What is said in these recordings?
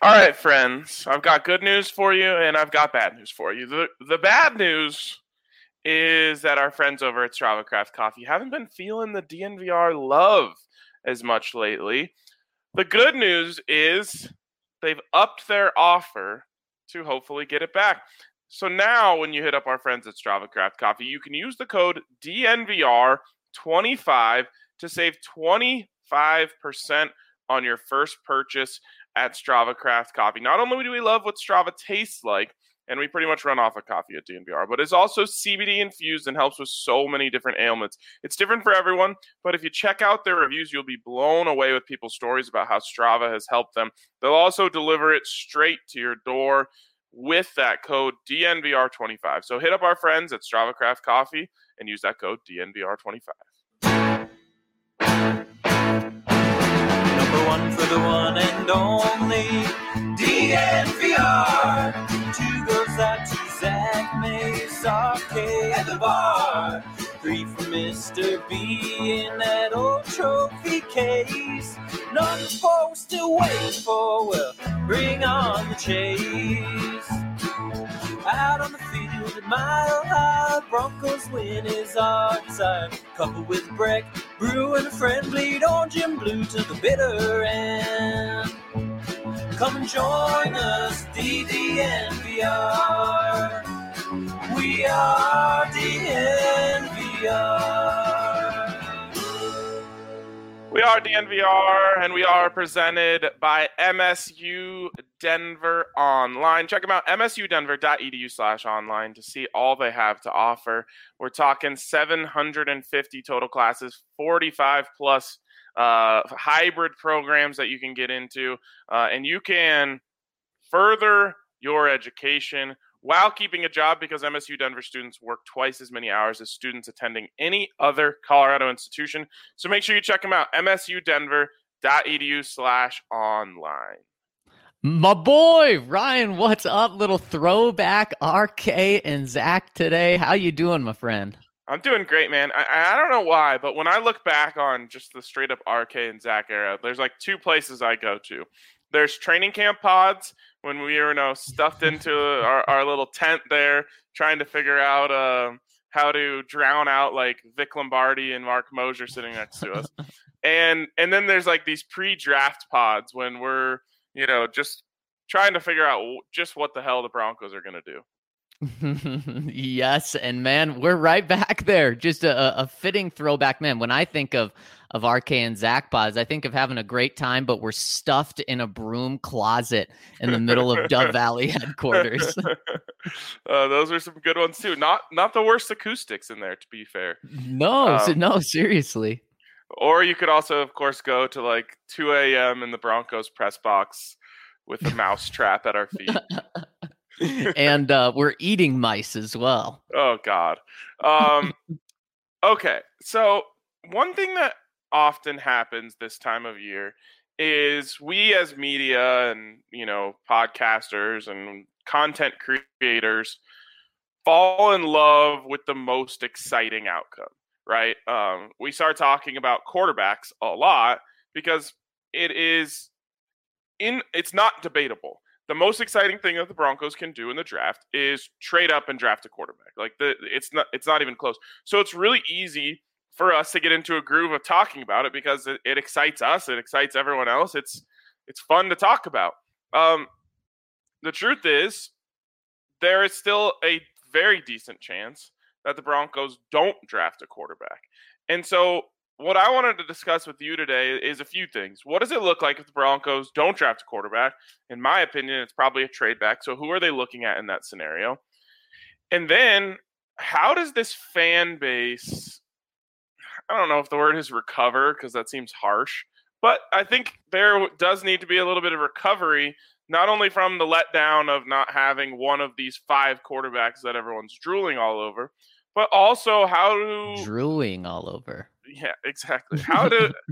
All right, friends. I've got good news for you, and I've got bad news for you. The bad news is that our friends over at Strava Craft Coffee haven't been feeling the DNVR love as much lately. The good news is they've upped their offer to hopefully get it back. So now, when you hit up our friends at Strava Craft Coffee, you can use the code DNVR25 to save 25% on your first purchase at Strava Craft Coffee. Not only do we love what Strava tastes like, and we pretty much run off of coffee at DNVR, but it's also CBD infused and helps with so many different ailments. It's different for everyone, but if you check out their reviews, you'll be blown away with people's stories about how Strava has helped them. They'll also deliver it straight to your door with that code DNVR25. So hit up our friends at Strava Craft Coffee and use that code DNVR25. Number one for the one and only DNVR. Two goes out to Zach Mace, RK at the bar. Three for Mr. B in that old trophy case. None folks still wait for, well, bring on the chase. Out on the field at Mile High, Broncos win is our desire. Coupled with Breck, Brew and a friend, bleed orange and blue to the bitter end. Come and join us, DNVR. We are DNVR. We are DNVR, and we are presented by MSU Denver Online. Check them out, msudenver.edu/online, to see all they have to offer. We're talking 750 total classes, 45 plus hybrid programs that you can get into, and you can further your education while keeping a job, because MSU Denver students work twice as many hours as students attending any other Colorado institution. So make sure you check them out, msudenver.edu/online. My boy, Ryan, what's up? Little throwback RK and Zach today. How you doing, my friend? I'm doing great, man. I don't know why, but when I look back on just the straight up RK and Zach era, there's like two places I go to. There's training camp pods when we were stuffed into our little tent there, trying to figure out how to drown out like Vic Lombardi and Mark Mosier sitting next to us. and then there's like these pre-draft pods when we're, just trying to figure out just what the hell the Broncos are going to do. Yes, and man, we're right back there. Just a fitting throwback, man. When I think of RK and Zach pods, I think of having a great time, but we're stuffed in a broom closet in the middle of Dove Valley headquarters. Those are some good ones too. Not the worst acoustics in there, to be fair. No, seriously. Or you could also, of course, go to like 2 a.m. in the Broncos press box with a mouse trap at our feet. And we're eating mice as well. Oh, God. Okay, so one thing that often happens this time of year is we as media and, podcasters and content creators fall in love with the most exciting outcome, right? We start talking about quarterbacks a lot because it's not debatable. The most exciting thing that the Broncos can do in the draft is trade up and draft a quarterback. Like it's not even close. So it's really easy for us to get into a groove of talking about it because it excites us. It excites everyone else. It's fun to talk about. The truth is, there is still a very decent chance that the Broncos don't draft a quarterback. And so what I wanted to discuss with you today is a few things. What does it look like if the Broncos don't draft a quarterback? In my opinion, it's probably a trade back. So who are they looking at in that scenario? And then how does this fan base, I don't know if the word is recover because that seems harsh, but I think there does need to be a little bit of recovery, not only from the letdown of not having one of these 5 quarterbacks that everyone's drooling all over, but also drooling all over. Yeah, exactly. How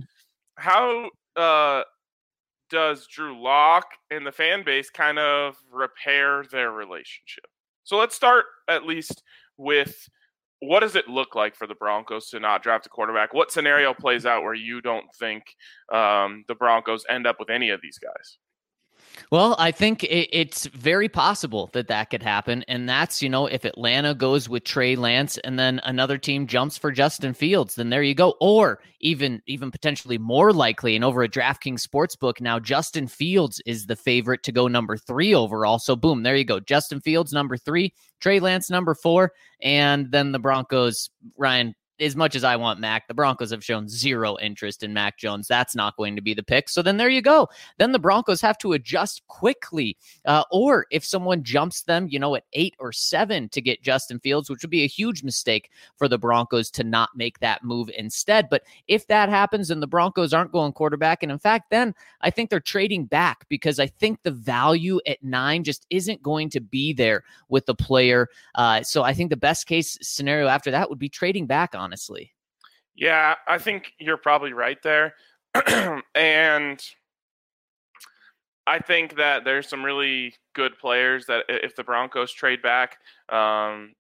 does Drew Lock and the fan base kind of repair their relationship? So let's start at least with, what does it look like for the Broncos to not draft a quarterback? What scenario plays out where you don't think the Broncos end up with any of these guys? Well, I think it's very possible that that could happen. And that's, if Atlanta goes with Trey Lance and then another team jumps for Justin Fields, then there you go. Or even potentially more likely, and over a DraftKings Sportsbook now, Justin Fields is the favorite to go number 3 overall. So boom, there you go. Justin Fields, number 3, Trey Lance, number 4. And then the Broncos, Ryan, as much as I want Mac, the Broncos have shown zero interest in Mac Jones. That's not going to be the pick. So then there you go. Then the Broncos have to adjust quickly. Or if someone jumps them, at 8 or 7 to get Justin Fields, which would be a huge mistake for the Broncos to not make that move instead. But if that happens and the Broncos aren't going quarterback, and in fact, then I think they're trading back because I think the value at 9 just isn't going to be there with the player. So I think the best case scenario after that would be trading back, honestly. Yeah, I think you're probably right there. And I think that there's some really good players that if the Broncos trade back, the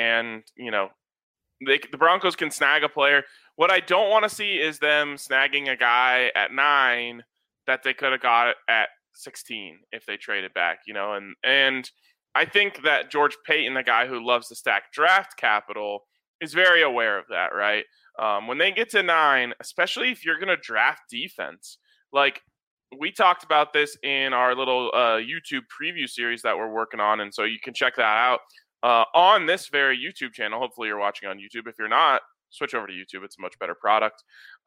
Broncos can snag a player. What I don't want to see is them snagging a guy at 9 that they could have got at 16 if they traded back, and I think that George Payton, the guy who loves to stack draft capital, is very aware of that, right? When they get to 9, especially if you're going to draft defense, like we talked about this in our little YouTube preview series that we're working on, and so you can check that out on this very YouTube channel. Hopefully you're watching on YouTube. If you're not, switch over to YouTube. It's a much better product.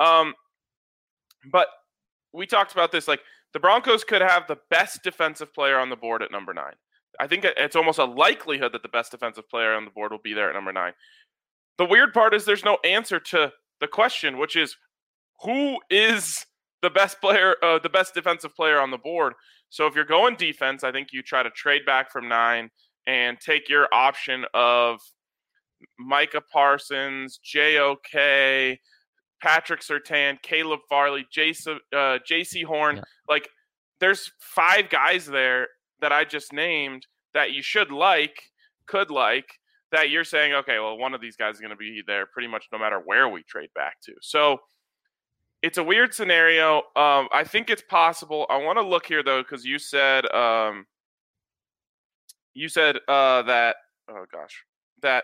But we talked about this, like the Broncos could have the best defensive player on the board at number 9. I think it's almost a likelihood that the best defensive player on the board will be there at number 9. The weird part is there's no answer to the question, which is who is the best player, the best defensive player on the board. So if you're going defense, I think you try to trade back from 9 and take your option of Micah Parsons, JOK, Patrick Surtain, Caleb Farley, JC Horn. Yeah. Like there's 5 guys there that I just named that you could like, that you're saying, okay, well, one of these guys is going to be there pretty much no matter where we trade back to. So it's a weird scenario. I think it's possible. I want to look here though, because you said that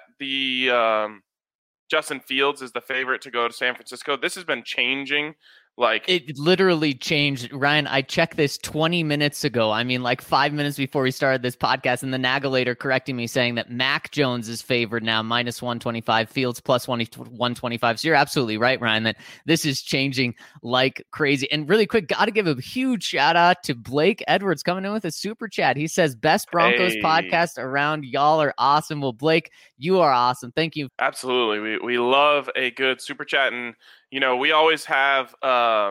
the Justin Fields is the favorite to go to San Francisco. This has been changing. Like it literally changed. Ryan, I checked this 20 minutes ago. I mean, like 5 minutes before we started this podcast, and the Nagelator correcting me saying that Mac Jones is favored now, minus 125, Fields plus 125. So you're absolutely right, Ryan, that this is changing like crazy. And really quick, got to give a huge shout out to Blake Edwards coming in with a super chat. He says, best Broncos podcast around. Y'all are awesome. Well, Blake, you are awesome. Thank you. Absolutely. We love a good super chat. And we always have our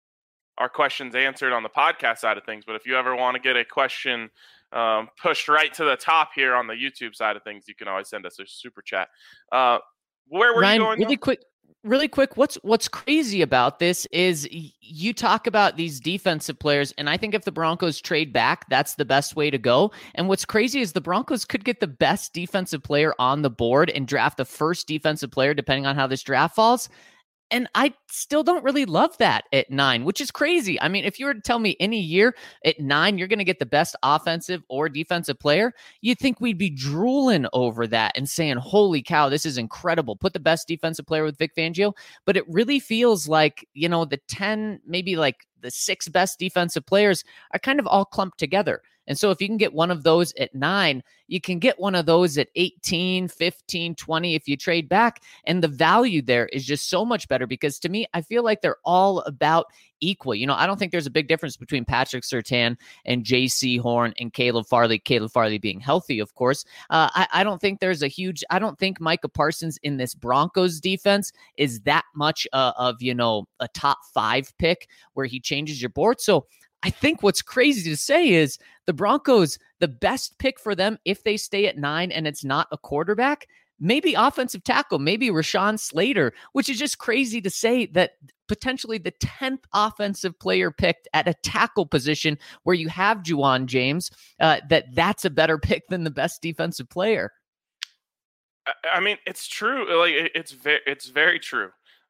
questions answered on the podcast side of things. But if you ever want to get a question pushed right to the top here on the YouTube side of things, you can always send us a super chat. Where were Ryan, you going? Really quick, what's crazy about this is you talk about these defensive players, and I think if the Broncos trade back, that's the best way to go. And what's crazy is the Broncos could get the best defensive player on the board and draft the first defensive player, depending on how this draft falls. And I still don't really love that at 9, which is crazy. I mean, if you were to tell me any year at 9, you're going to get the best offensive or defensive player, you'd think we'd be drooling over that and saying, holy cow, this is incredible. Put the best defensive player with Vic Fangio. But it really feels like, the 10, maybe like the 6 best defensive players are kind of all clumped together. And so if you can get one of those at 9, you can get one of those at 18, 15, 20 if you trade back. And the value there is just so much better because to me, I feel like they're all about equal. I don't think there's a big difference between Patrick Surtain and JC Horn and Caleb Farley being healthy, of course. I don't think there's I don't think Micah Parsons in this Broncos defense is that much of a top 5 pick where he changes your board. So I think what's crazy to say is the Broncos, the best pick for them, if they stay at 9 and it's not a quarterback, maybe offensive tackle, maybe Rashawn Slater, which is just crazy to say that potentially the 10th offensive player picked at a tackle position where you have Juwan James, that's a better pick than the best defensive player. I mean, it's true. Like it's very true.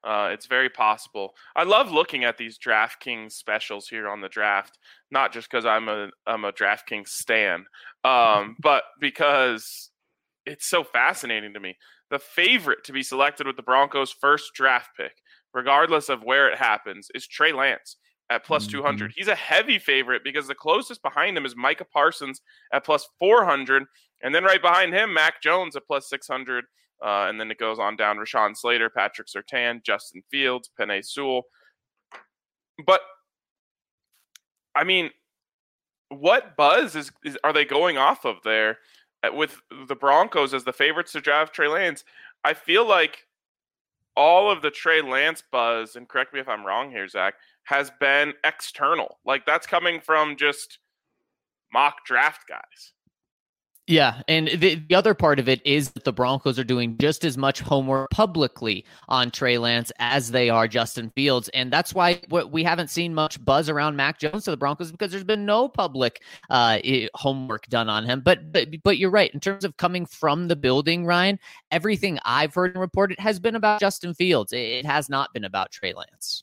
It's very possible. I love looking at these DraftKings specials here on the draft, not just because I'm a DraftKings stan, but because it's so fascinating to me. The favorite to be selected with the Broncos' first draft pick, regardless of where it happens, is Trey Lance at plus 200. He's a heavy favorite because the closest behind him is Micah Parsons at plus 400, and then right behind him, Mac Jones at plus 600. And then it goes on down Rashawn Slater, Patrick Surtain, Justin Fields, Penei Sewell. But, I mean, what buzz are they going off of there with the Broncos as the favorites to draft Trey Lance? I feel like all of the Trey Lance buzz, and correct me if I'm wrong here, Zach, has been external. Like, that's coming from just mock draft guys. Yeah, and the other part of it is that the Broncos are doing just as much homework publicly on Trey Lance as they are Justin Fields, and that's why we haven't seen much buzz around Mac Jones to the Broncos, because there's been no public homework done on him. But you're right, in terms of coming from the building, Ryan, everything I've heard and reported has been about Justin Fields. It has not been about Trey Lance.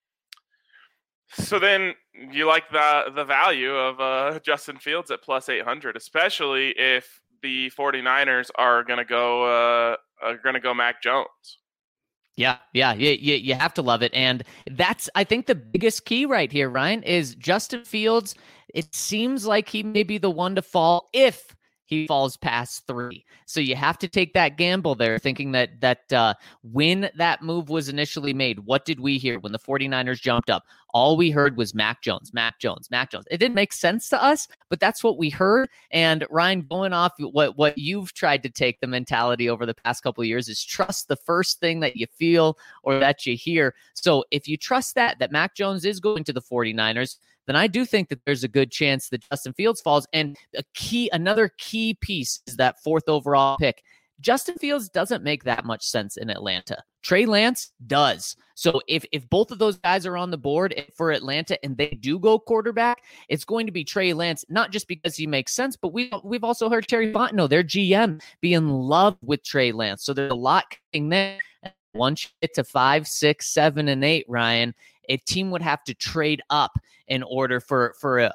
So then you like the value of Justin Fields at plus 800, especially if the 49ers are going to go Mac Jones. Yeah, you have to love it. And that's, I think, the biggest key right here, Ryan, is Justin Fields. It seems like he may be the one to fall if he falls past 3. So you have to take that gamble there, thinking that when that move was initially made, what did we hear when the 49ers jumped up? All we heard was Mac Jones. It didn't make sense to us, but that's what we heard. And Ryan, going off what you've tried to take the mentality over the past couple of years is trust the first thing that you feel or that you hear. So if you trust that Mac Jones is going to the 49ers, then I do think that there's a good chance that Justin Fields falls. And another key piece is that 4th overall pick. Justin Fields doesn't make that much sense in Atlanta. Trey Lance does. So if both of those guys are on the board for Atlanta and they do go quarterback, it's going to be Trey Lance, not just because he makes sense, but we've also heard Terry Fontenot, their GM, be in love with Trey Lance. So there's a lot coming there. Once you get to 5, 6, 7, and 8, Ryan, a team would have to trade up in order for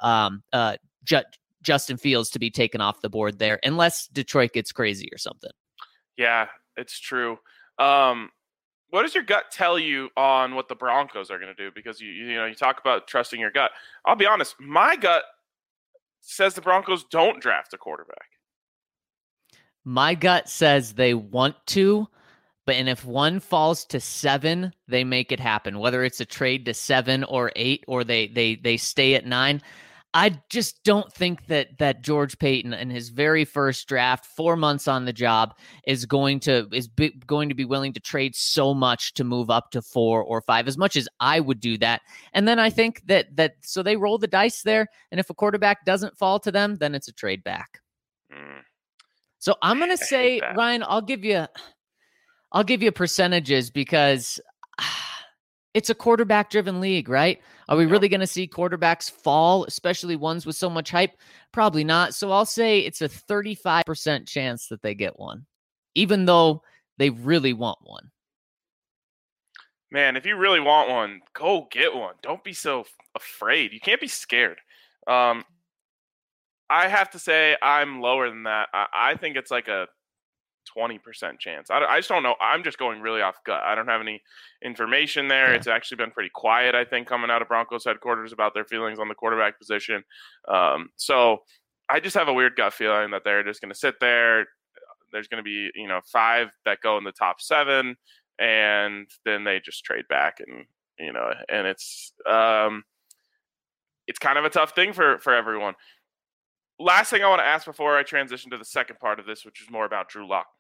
Justin Fields to be taken off the board there, unless Detroit gets crazy or something. Yeah, it's true. What does your gut tell you on what the Broncos are going to do? Because you talk about trusting your gut. I'll be honest, my gut says the Broncos don't draft a quarterback. My gut says they want to, and if one falls to 7, they make it happen. Whether it's a trade to 7 or 8, or they stay at 9. I just don't think that George Paton in his very first draft, 4 months on the job, is going to be willing to trade so much to move up to 4 or 5, as much as I would do that. And then I think that so they roll the dice there, and if a quarterback doesn't fall to them, then it's a trade back. So I'm going to say, Ryan, I'll give you percentages because it's a quarterback-driven league, right? Are we really going to see quarterbacks fall, especially ones with so much hype? Probably not. So I'll say it's a 35% chance that they get one, even though they really want one. Man, if you really want one, go get one. Don't be so afraid. You can't be scared. I have to say I'm lower than that. I think it's like a 20% chance. I just don't know. I'm just going really off gut. I don't have any information there. Yeah. It's actually been pretty quiet, I think, coming out of Broncos headquarters about their feelings on the quarterback position. So I just have a weird gut feeling that they're just going to sit there. There's going to be, 5 that go in the top 7, and then they just trade back, and and it's kind of a tough thing for everyone. Last thing I want to ask before I transition to the second part of this, which is more about Drew Lock.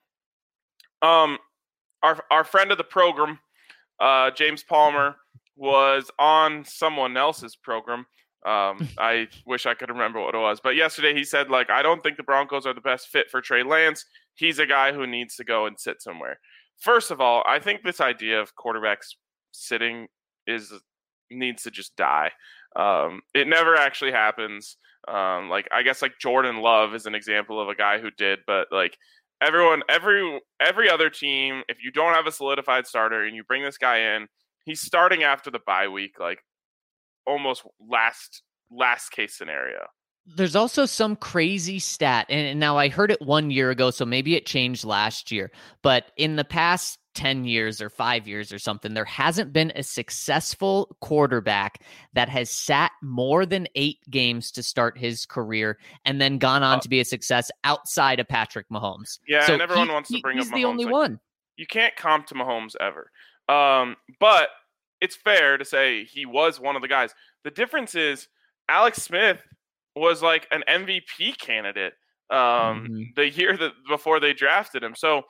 Our friend of the program, James Palmer, was on someone else's program. I wish I could remember what it was. But yesterday he said, I don't think the Broncos are the best fit for Trey Lance. He's a guy who needs to go and sit somewhere. First of all, I think this idea of quarterbacks sitting needs to just die. It never actually happens. I guess Jordan Love is an example of a guy who did, but every other team, if you don't have a solidified starter and you bring this guy in, he's starting after the bye week, like almost last case scenario. There's also some crazy stat, and now I heard it 1 year ago, so maybe it changed last year, but in the past 10 years or 5 years or something, there hasn't been a successful quarterback that has sat more than 8 games to start his carear and then gone on to be a success outside of Patrick Mahomes. Yeah, so and everyone wants to bring up Mahomes. He's the only one. You can't comp to Mahomes ever. But it's fair to say he was one of the guys. The difference is Alex Smith was like an MVP candidate the year before they drafted him. So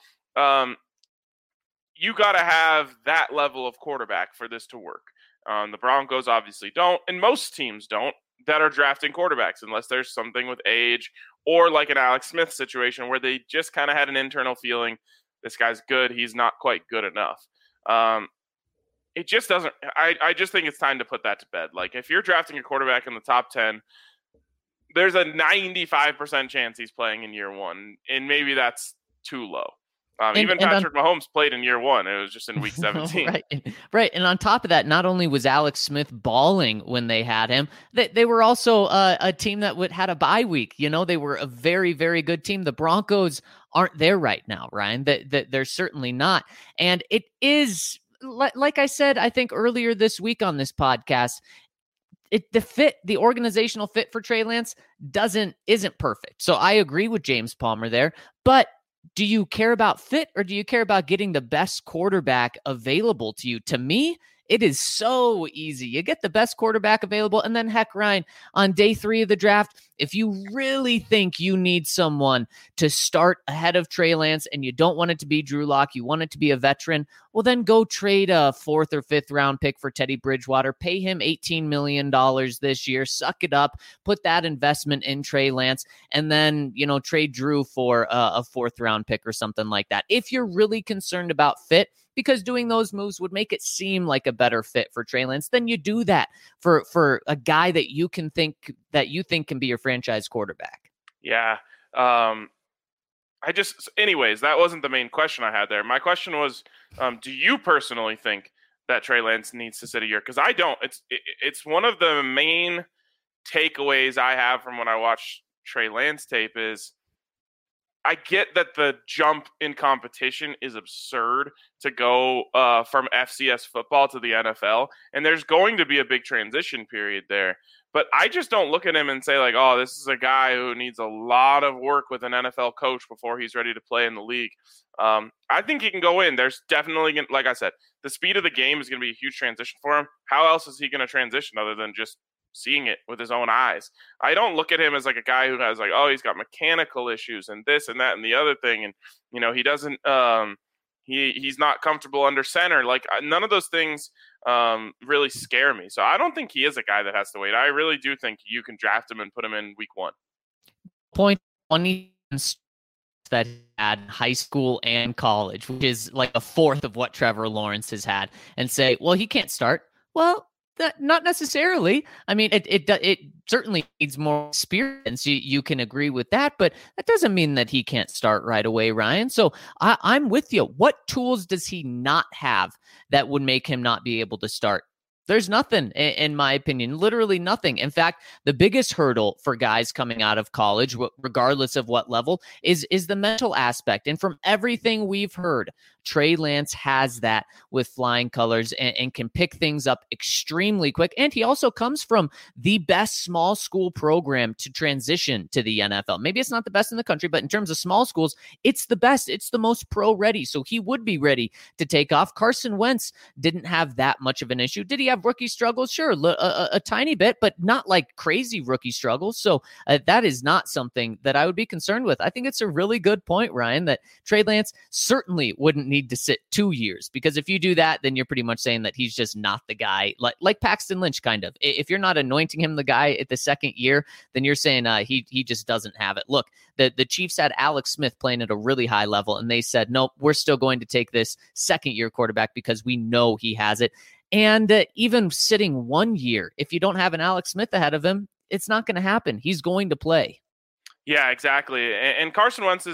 you got to have that level of quarterback for this to work. The Broncos obviously don't, and most teams don't, that are drafting quarterbacks unless there's something with age or like an Alex Smith situation where they just kind of had an internal feeling, this guy's good, he's not quite good enough. It just doesn't – I just think it's time to put that to bed. Like, if you're drafting a quarterback in the top 10, there's a 95% chance he's playing in year one, and maybe that's too low. Even Patrick Mahomes played in year one. It was just in week 17. Right. And on top of that, not only was Alex Smith balling when they had him, they were also a team that had a bye week. You know, they were a very, very good team. The Broncos aren't there right now, Ryan. They're certainly not. And it is, like I said, I think earlier this week on this podcast, the organizational fit for Trey Lance isn't perfect. So I agree with James Palmer there, but do you care about fit or do you care about getting the best quarterback available to you? To me, it is so easy. You get the best quarterback available, and then heck, Ryan, on day 3 of the draft, if you really think you need someone to start ahead of Trey Lance and you don't want it to be Drew Lock, you want it to be a veteran, well, then go trade a 4th or 5th round pick for Teddy Bridgewater, pay him $18 million this year, suck it up, put that investment in Trey Lance, and then, trade Drew for a 4th round pick or something like that. If you're really concerned about fit, because doing those moves would make it seem like a better fit for Trey Lance, then you do that for a guy that you think can be your franchise quarterback. Yeah. Anyways, that wasn't the main question I had there. My question was, do you personally think that Trey Lance needs to sit a year? Because I don't. It's one of the main takeaways I have from when I watch Trey Lance tape is, I get that the jump in competition is absurd to go from FCS football to the NFL, and there's going to be a big transition period there. But I just don't look at him and say, like, oh, this is a guy who needs a lot of work with an NFL coach before he's ready to play in the league. I think he can go in. There's definitely, like I said, the speed of the game is going to be a huge transition for him. How else is he going to transition other than just seeing it with his own eyes? I don't look at him as like a guy who has like, oh, he's got mechanical issues and this and that and the other thing. And, he doesn't, he's not comfortable under center. Like, none of those things really scare me. So I don't think he is a guy that has to wait. I really do think you can draft him and put him in week 1. Point one that he had in high school and college, which is like a 4th of what Trevor Lawrence has had, and say, well, he can't start. Well, not necessarily. I mean, it certainly needs more experience. You can agree with that, but that doesn't mean that he can't start right away, Ryan. So I'm with you. What tools does he not have that would make him not be able to start? There's nothing, in my opinion, literally nothing. In fact, the biggest hurdle for guys coming out of college, regardless of what level, is the mental aspect. And from everything we've heard, Trey Lance has that with flying colors and can pick things up extremely quick. And he also comes from the best small school program to transition to the NFL. Maybe it's not the best in the country, but in terms of small schools, it's the best. It's the most pro ready. So he would be ready to take off. Carson Wentz didn't have that much of an issue. Did he have rookie struggles? Sure, a tiny bit, but not like crazy rookie struggles. So that is not something that I would be concerned with. I think it's a really good point, Ryan, that Trey Lance certainly wouldn't need to sit 2 years, because if you do that, then you're pretty much saying that he's just not the guy, like Paxton Lynch kind of. If you're not anointing him the guy at the second year, then you're saying he just doesn't have it. Look, the Chiefs had Alex Smith playing at a really high level, and they said, nope, we're still going to take this second-year quarterback because we know he has it. And even sitting 1 year, if you don't have an Alex Smith ahead of him, it's not going to happen. He's going to play. Yeah, exactly. And Carson Wentz is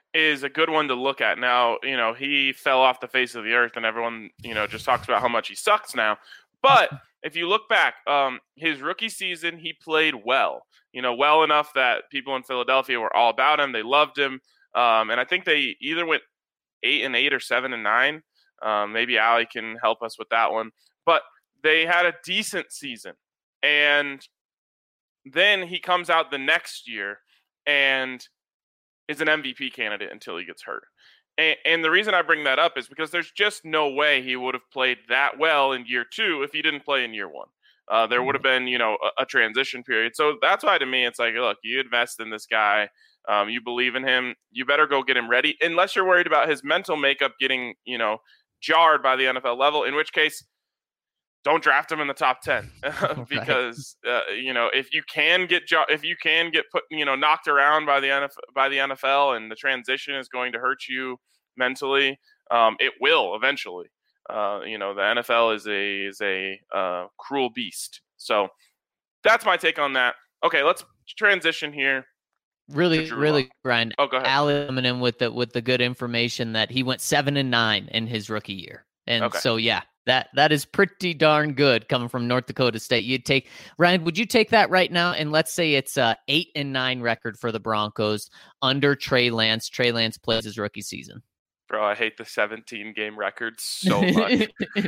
is a good one to look at. Now, he fell off the face of the earth and everyone, just talks about how much he sucks now. But if you look back, his rookie season, he played well, well enough that people in Philadelphia were all about him. They loved him. And I think they either went 8-8 or 7-9. Maybe Allie can help us with that one. But they had a decent season. And then he comes out the next year and is an MVP candidate until he gets hurt. And the reason I bring that up is because there's just no way he would have played that well in year 2 if he didn't play in year 1. There would have been, a transition period. So that's why to me, it's like, look, you invest in this guy. You believe in him. You better go get him ready. Unless you're worried about his mental makeup getting, jarred by the NFL level, in which case, don't draft him in the top 10 because if you can get put knocked around by the NFL and the transition is going to hurt you mentally, it will eventually. The NFL is a cruel beast. So that's my take on that. Okay, let's transition here. Really, Brian. Oh, go ahead. Allie coming in with the good information that he went 7-9 in his rookie year, and so yeah. That is pretty darn good coming from North Dakota State. Ryan, would you take that right now? And let's say it's a 8-9 record for the Broncos under Trey Lance. Trey Lance plays his rookie season. Bro, I hate the 17-game record so much.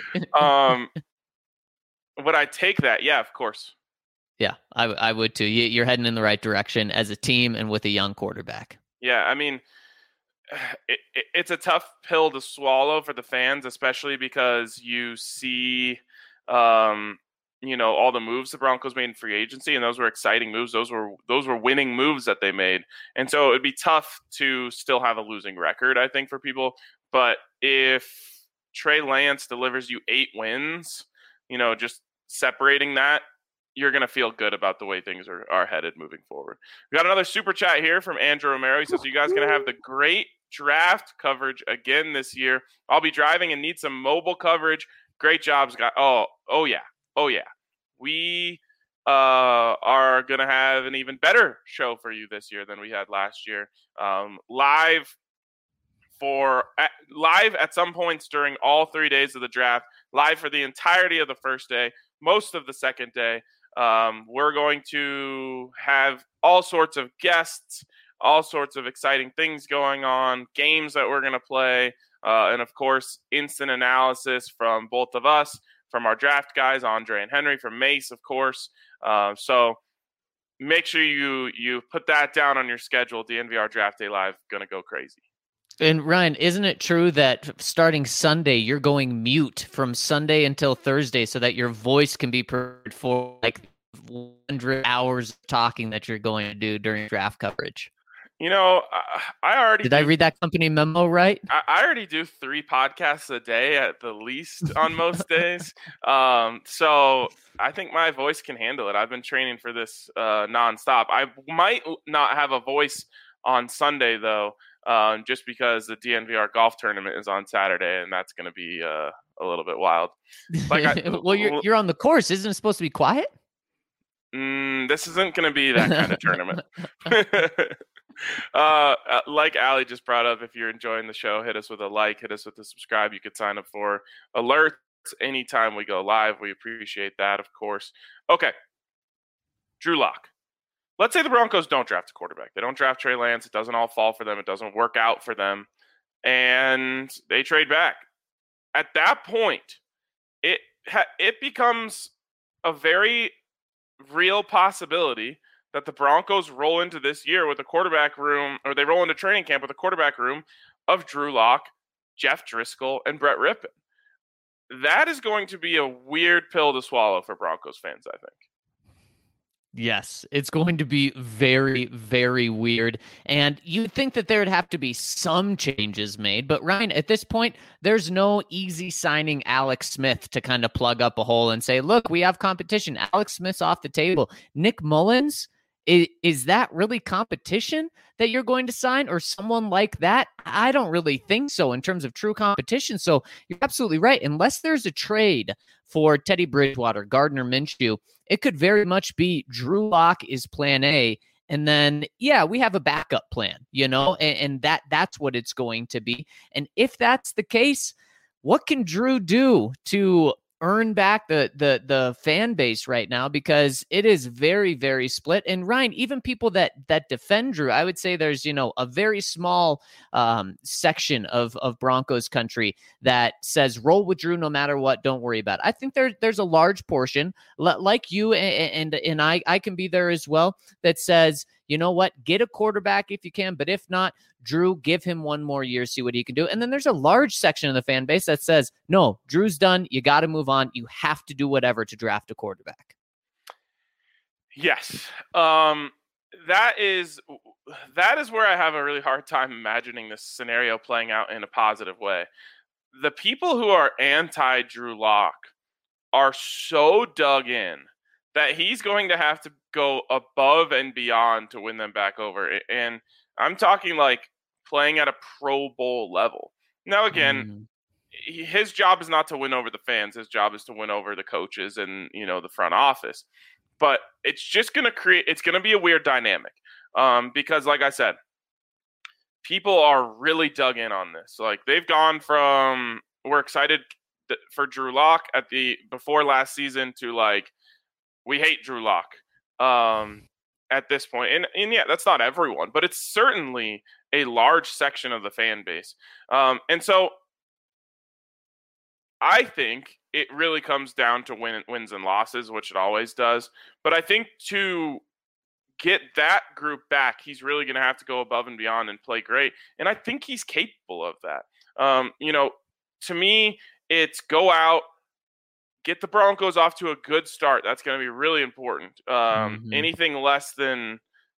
Would I take that? Yeah, of course. Yeah, I would too. You're heading in the right direction as a team and with a young quarterback. Yeah, I mean, it's a tough pill to swallow for the fans, especially because you see, all the moves the Broncos made in free agency, and those were exciting moves. Those were winning moves that they made, and so it'd be tough to still have a losing record, I think, for people. But if Trey Lance delivers you 8 wins, just separating that, you're going to feel good about the way things are headed moving forward. We got another super chat here from Andrew Romero. He says, you guys going to have the great draft coverage again this year. I'll be driving and need some mobile coverage. Great jobs, guys. Oh yeah. We are going to have an even better show for you this year than we had last year. Live at some points during all 3 days of the draft, live for the entirety of the first day, most of the second day. We're going to have all sorts of guests, all sorts of exciting things going on, games that we're going to play, and of course, instant analysis from both of us, from our draft guys, Andre and Henry, from Mace, of course. So make sure you put that down on your schedule. DNVR Draft Day Live, going to go crazy. And Ryan, isn't it true that starting Sunday, you're going mute from Sunday until Thursday so that your voice can be prepared for like 100 hours of talking that you're going to do during draft coverage? I read that company memo right? I already do 3 podcasts a day at the least on most days. So I think my voice can handle it. I've been training for this nonstop. I might not have a voice on Sunday though. Just because the DNVR golf tournament is on Saturday, and that's going to be a little bit wild. Well, you're on the course. Isn't it supposed to be quiet? This isn't going to be that kind of tournament. Like Allie just brought up, if you're enjoying the show, hit us with a like, hit us with a subscribe. You could sign up for alerts anytime we go live. We appreciate that, of course. Okay, Drew Lock. Let's say the Broncos don't draft a quarterback. They don't draft Trey Lance. It doesn't all fall for them. It doesn't work out for them. And they trade back. At that point, it becomes a very real possibility that the Broncos roll into this year with a quarterback room, or they roll into training camp with a quarterback room of Drew Lock, Jeff Driscoll, and Brett Rippon. That is going to be a weird pill to swallow for Broncos fans, I think. Yes, it's going to be very, very weird. And you'd think that there would have to be some changes made. But Ryan, at this point, there's no easy signing Alex Smith to kind of plug up a hole and say, look, we have competition. Alex Smith's off the table. Nick Mullins, is that really competition that you're going to sign, or someone like that? I don't really think so in terms of true competition. So you're absolutely right. Unless there's a trade for Teddy Bridgewater, Gardner Minshew, it could very much be Drew Lock is plan A, And then, yeah, we have a backup plan, and that's what it's going to be. And if that's the case, what can Drew do to earn back the fan base right now? Because it is very, very split. And Ryan, even people that defend Drew, I would say there's, a very small section of Broncos country that says roll with Drew no matter what, don't worry about it. I think there's a large portion like you and I can be there as well, that says, you know what, get a quarterback if you can, but if not, Drew, give him one more year, see what he can do. And then there's a large section of the fan base that says, no, Drew's done. You got to move on. You have to do whatever to draft a quarterback. Yes. That is where I have a really hard time imagining this scenario playing out in a positive way. The people who are anti-Drew Lock are so dug in that he's going to have to go above and beyond to win them back over. And I'm talking like playing at a Pro Bowl level. Now, again, his job is not to win over the fans. His job is to win over the coaches and, the front office. But it's just going to it's going to be a weird dynamic because, like I said, people are really dug in on this. Like, they've gone from, we're excited for Drew Lock before last season to like, we hate Drew Lock at this point. And yeah, that's not everyone, but it's certainly a large section of the fan base. And so I think it really comes down to wins and losses, which it always does. But I think to get that group back, he's really going to have to go above and beyond and play great. And I think he's capable of that. To me, it's go out, get the Broncos off to a good start. That's going to be really important. Anything less than,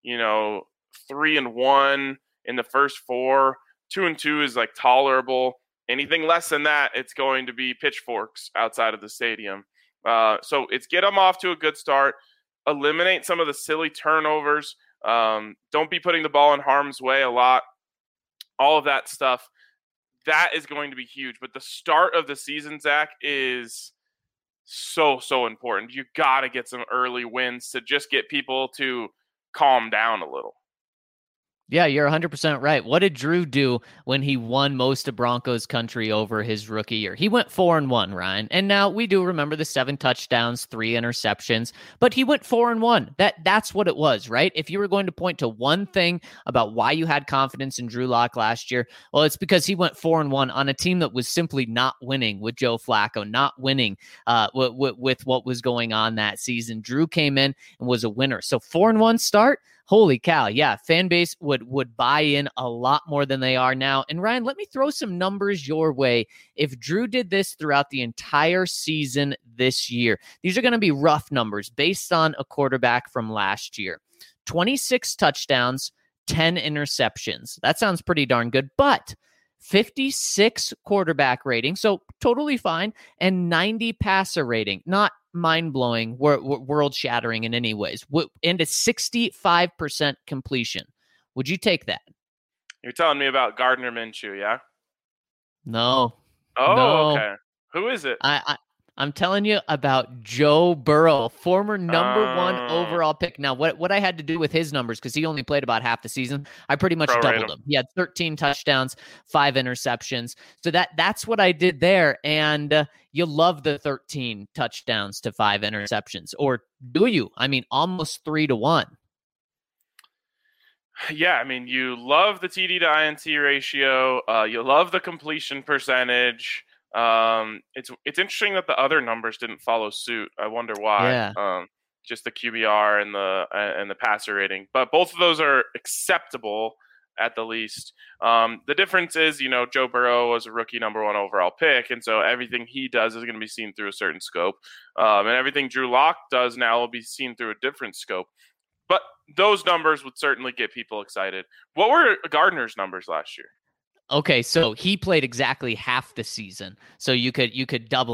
3-1 in the first 4, 2-2 is like tolerable. Anything less than that, it's going to be pitchforks outside of the stadium. So it's get them off to a good start, eliminate some of the silly turnovers. Don't be putting the ball in harm's way a lot. All of that stuff, that is going to be huge. But the start of the season, Zach, is so important. You got to get some early wins to just get people to calm down a little. Yeah, you're 100% right. What did Drew do when he won most of Broncos country over his rookie year? He went 4-1, Ryan. And now we do remember the 7 touchdowns, 3 interceptions, but he went 4-1. That's what it was, right? If you were going to point to one thing about why you had confidence in Drew Lock last year, well, it's because he went 4-1 on a team that was simply not winning with Joe Flacco, not winning with what was going on that season. Drew came in and was a winner. So 4-1 start. Holy cow. Yeah. Fan base would buy in a lot more than they are now. And Ryan, let me throw some numbers your way. If Drew did this throughout the entire season this year, these are going to be rough numbers based on a quarterback from last year. 26 touchdowns, 10 interceptions. That sounds pretty darn good, but 56 quarterback rating, so totally fine, and 90 passer rating. Not mind-blowing, world-shattering in any ways, and a 65% completion. Would you take that? You're telling me about Gardner Minshew, yeah? No. Oh, no. Okay. Who is it? I'm telling you about Joe Burrow, former number 1 overall pick. Now, what I had to do with his numbers, because he only played about half the season, I pretty much doubled him. He had 13 touchdowns, 5 interceptions. So that's what I did there. And you love the 13 touchdowns to 5 interceptions. Or do you? I mean, almost 3-1. Yeah, I mean, you love the TD to INT ratio. You love the completion percentage. It's interesting that the other numbers didn't follow suit. I wonder why. Yeah. Just the QBR and the passer rating, but both of those are acceptable at the least. The difference is, Joe Burrow was a rookie number 1 overall pick, and so everything he does is going to be seen through a certain scope, and everything Drew Lock does now will be seen through a different scope. But those numbers would certainly get people excited. What were Gardner's numbers last year? Okay, so he played exactly half the season, so you could double him.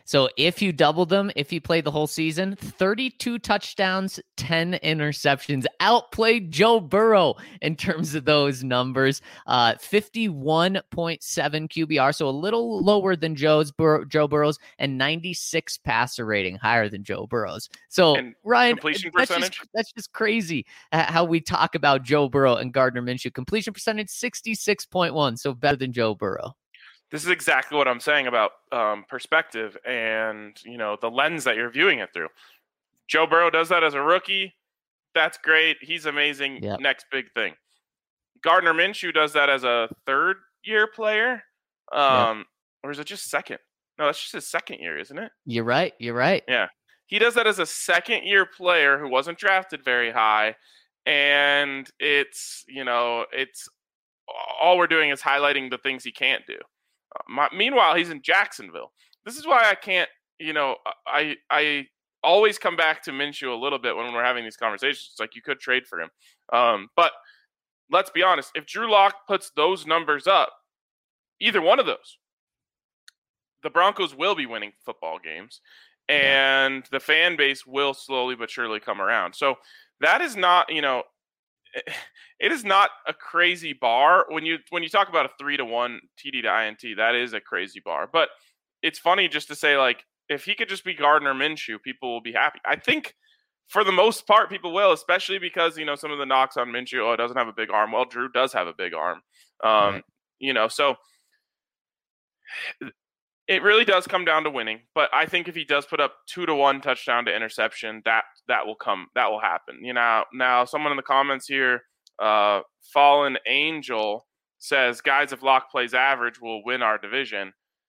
So if you doubled them, if you played the whole season, 32 touchdowns, 10 interceptions, outplayed Joe Burrow in terms of those numbers. 51.7 QBR, so a little lower than Joe Burrow's, and 96 passer rating, higher than Joe Burrow's. So And Ryan, completion percentage? That's just crazy how we talk about Joe Burrow and Gardner Minshew. Completion percentage 66.1, so better than Joe Burrow. This is exactly what I'm saying about perspective and, the lens that you're viewing it through. Joe Burrow does that as a rookie. That's great. He's amazing. Yep. Next big thing. Gardner Minshew does that as a third-year player. Or is it just second? No, that's just his second year, isn't it? You're right. Yeah. He does that as a second-year player who wasn't drafted very high. And it's all we're doing is highlighting the things he can't do. Meanwhile, he's in Jacksonville. This is why I can't, I always come back to Minshew a little bit when we're having these conversations. It's like you could trade for him. But let's be honest. If Drew Lock puts those numbers up, either one of those, the Broncos will be winning football games, and the fan base will slowly but surely come around. So that is not, it is not a crazy bar. When you talk about a 3-1 TD to INT, that is a crazy bar. But it's funny just to say, like, if he could just be Gardner Minshew, people will be happy. I think for the most part, people will, especially because, some of the knocks on Minshew, it doesn't have a big arm. Well, Drew does have a big arm. So it really does come down to winning. But I think if he does put up 2-1 touchdown to interception, that will happen. Now someone in the comments here, Fallen Angel, says, guys, if Lock plays average, we'll win our division.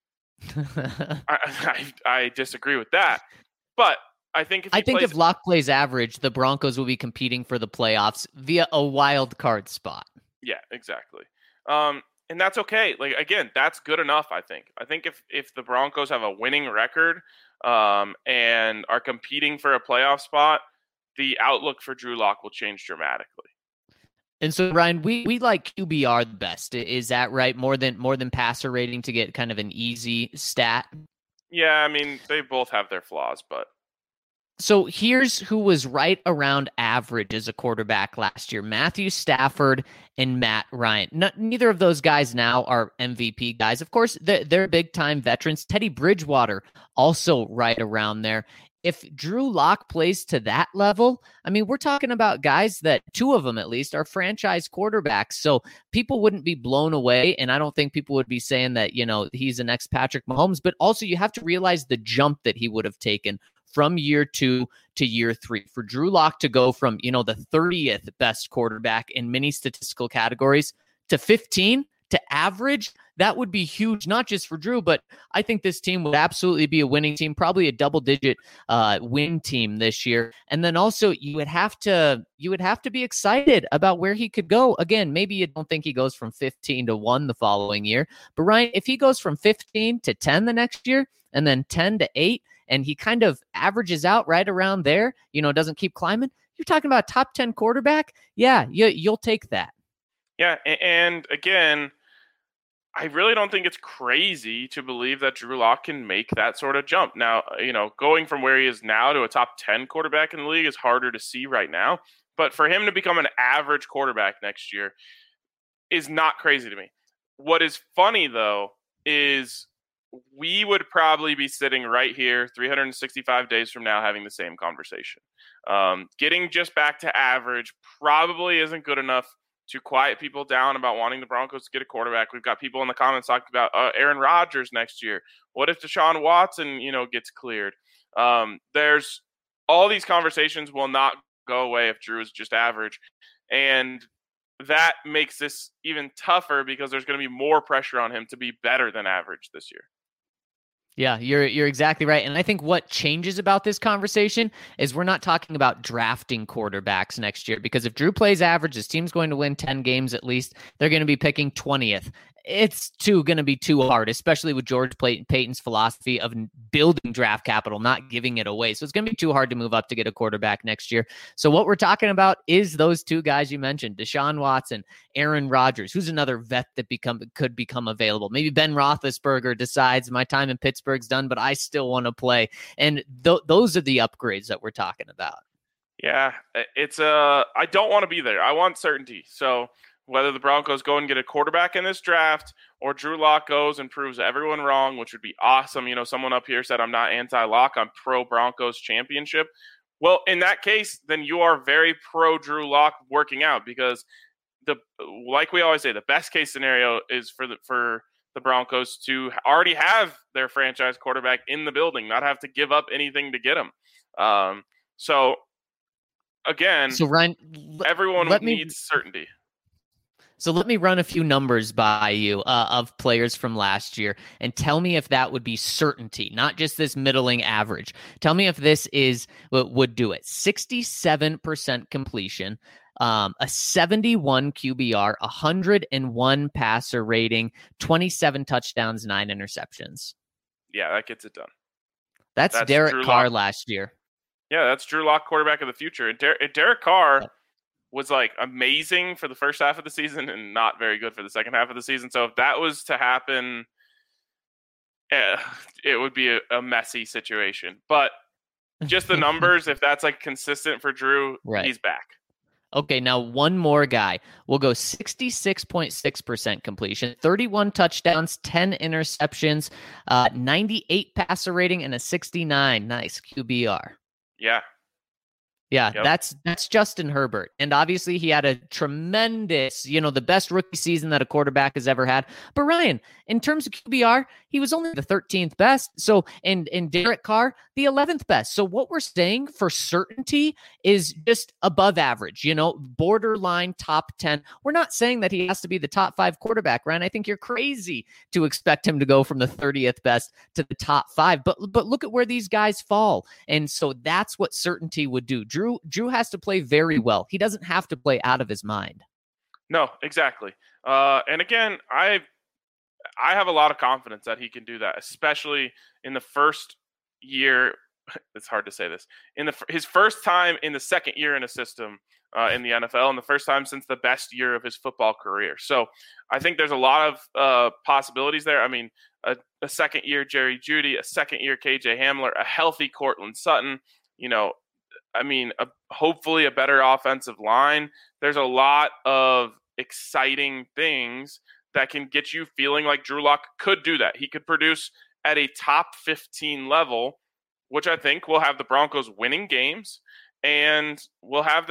I disagree with that. But I think if Lock plays average, the Broncos will be competing for the playoffs via a wild card spot. Yeah, exactly. And that's okay. Like, again, that's good enough, I think. I think if the Broncos have a winning record and are competing for a playoff spot, the outlook for Drew Lock will change dramatically. And so, Ryan, we like QBR the best. Is that right? More than passer rating to get kind of an easy stat? Yeah, I mean, they both have their flaws, but... So here's who was right around average as a quarterback last year: Matthew Stafford and Matt Ryan. Neither of those guys now are MVP guys. Of course, they're big-time veterans. Teddy Bridgewater also right around there. If Drew Lock plays to that level, I mean, we're talking about guys that, two of them at least, are franchise quarterbacks. So people wouldn't be blown away, and I don't think people would be saying that, he's the next Patrick Mahomes. But also you have to realize the jump that he would have taken from year 2 to year 3. For Drew Lock to go from, the 30th best quarterback in many statistical categories to 15 to average, that would be huge, not just for Drew, but I think this team would absolutely be a winning team, probably a double-digit win team this year. And then also you would have to be excited about where he could go. Again, maybe you don't think he goes from 15 to 1 the following year, but Ryan, if he goes from 15 to 10 the next year and then 10 to 8, and he kind of averages out right around there, doesn't keep climbing, you're talking about a top 10 quarterback. Yeah, you'll take that. Yeah, and again, I really don't think it's crazy to believe that Drew Lock can make that sort of jump. Now, going from where he is now to a top 10 quarterback in the league is harder to see right now. But for him to become an average quarterback next year is not crazy to me. What is funny, though, is we would probably be sitting right here 365 days from now having the same conversation. Getting just back to average probably isn't good enough to quiet people down about wanting the Broncos to get a quarterback. We've got people in the comments talking about Aaron Rodgers next year. What if Deshaun Watson, gets cleared? There's all these conversations will not go away if Drew is just average. And that makes this even tougher because there's going to be more pressure on him to be better than average this year. Yeah, you're exactly right. And I think what changes about this conversation is we're not talking about drafting quarterbacks next year, because if Drew plays average, his team's going to win 10 games at least. They're going to be picking 20th. it's going to be too hard, especially with George Payton's philosophy of building draft capital, not giving it away. So it's going to be too hard to move up to get a quarterback next year. So what we're talking about is those two guys you mentioned, Deshaun Watson, Aaron Rodgers, who's another vet that could become available. Maybe Ben Roethlisberger decides my time in Pittsburgh's done, but I still want to play. And those are the upgrades that we're talking about. Yeah, it's I don't want to be there. I want certainty. So whether the Broncos go and get a quarterback in this draft or Drew Lock goes and proves everyone wrong, which would be awesome. You know, someone up here said I'm not anti-Lock, I'm pro-Broncos championship. Well, in that case, then you are very pro-Drew Lock working out, because like we always say, the best case scenario is for the Broncos to already have their franchise quarterback in the building, not have to give up anything to get him. So again, Ryan, everyone needs certainty. So let me run a few numbers by you of players from last year and tell me if that would be certainty, not just this middling average. Tell me if this is what would do it. 67% completion, a 71 QBR, 101 passer rating, 27 touchdowns, 9 interceptions. Yeah, that gets it done. That's Derek Carr last year. Yeah, that's Drew Lock, quarterback of the future. And Derek Carr was like amazing for the first half of the season and not very good for the second half of the season. So if that was to happen, it would be a messy situation. But just the numbers, if that's like consistent for Drew, he's back. Okay, now one more guy. We'll go 66.6% completion, 31 touchdowns, 10 interceptions, 98 passer rating, and a 69. Nice QBR. Yeah. Yeah, yep. That's Justin Herbert. And obviously he had a tremendous, the best rookie season that a quarterback has ever had. But Ryan, in terms of QBR, he was only the 13th best. So, and Derek Carr, the 11th best. So what we're saying for certainty is just above average, borderline top 10. We're not saying that he has to be the top 5 quarterback, Ryan. I think you're crazy to expect him to go from the 30th best to the top 5. But look at where these guys fall. And so that's what certainty would do. Drew has to play very well. He doesn't have to play out of his mind. No, exactly. And again, I have a lot of confidence that he can do that, especially in the first year. It's hard to say this. In his first time in the second year in a system in the NFL, and the first time since the best year of his football career. So I think there's a lot of possibilities there. I mean, a second year Jerry Jeudy, a second year KJ Hamler, a healthy Cortland Sutton, hopefully a better offensive line. There's a lot of exciting things that can get you feeling like Drew Lock could do that. He could produce at a top 15 level, which I think will have the Broncos winning games, and we'll have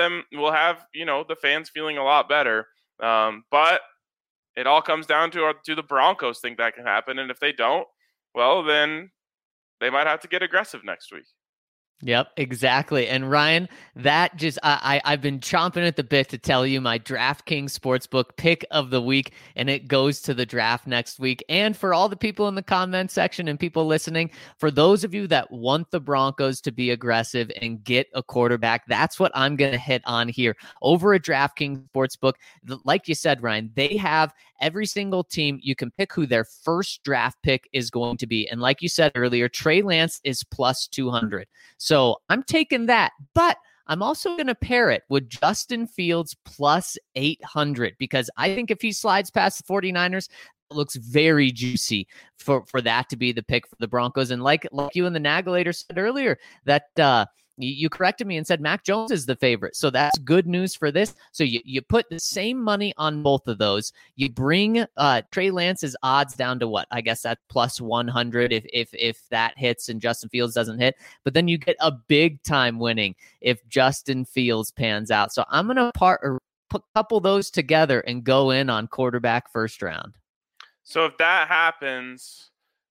the fans feeling a lot better. But it all comes down to the Broncos think that can happen. And if they don't, well, then they might have to get aggressive next week. Yep, exactly. And Ryan, that just I've been chomping at the bit to tell you my DraftKings Sportsbook pick of the week, and it goes to the draft next week. And for all the people in the comment section and people listening, for those of you that want the Broncos to be aggressive and get a quarterback, that's what I'm going to hit on here over at DraftKings Sportsbook. Like you said, Ryan, they have every single team. You can pick who their first draft pick is going to be. And like you said earlier, Trey Lance is plus 200. So I'm taking that, but I'm also going to pair it with Justin Fields plus 800, because I think if he slides past the 49ers, it looks very juicy for that to be the pick for the Broncos. And like you and the Nagelator said earlier, that you corrected me and said Mac Jones is the favorite. So that's good news for this. So you put the same money on both of those. You bring Trey Lance's odds down to what? I guess that's plus 100 if that hits and Justin Fields doesn't hit. But then you get a big time winning if Justin Fields pans out. So I'm going to couple those together and go in on quarterback first round. So if that happens,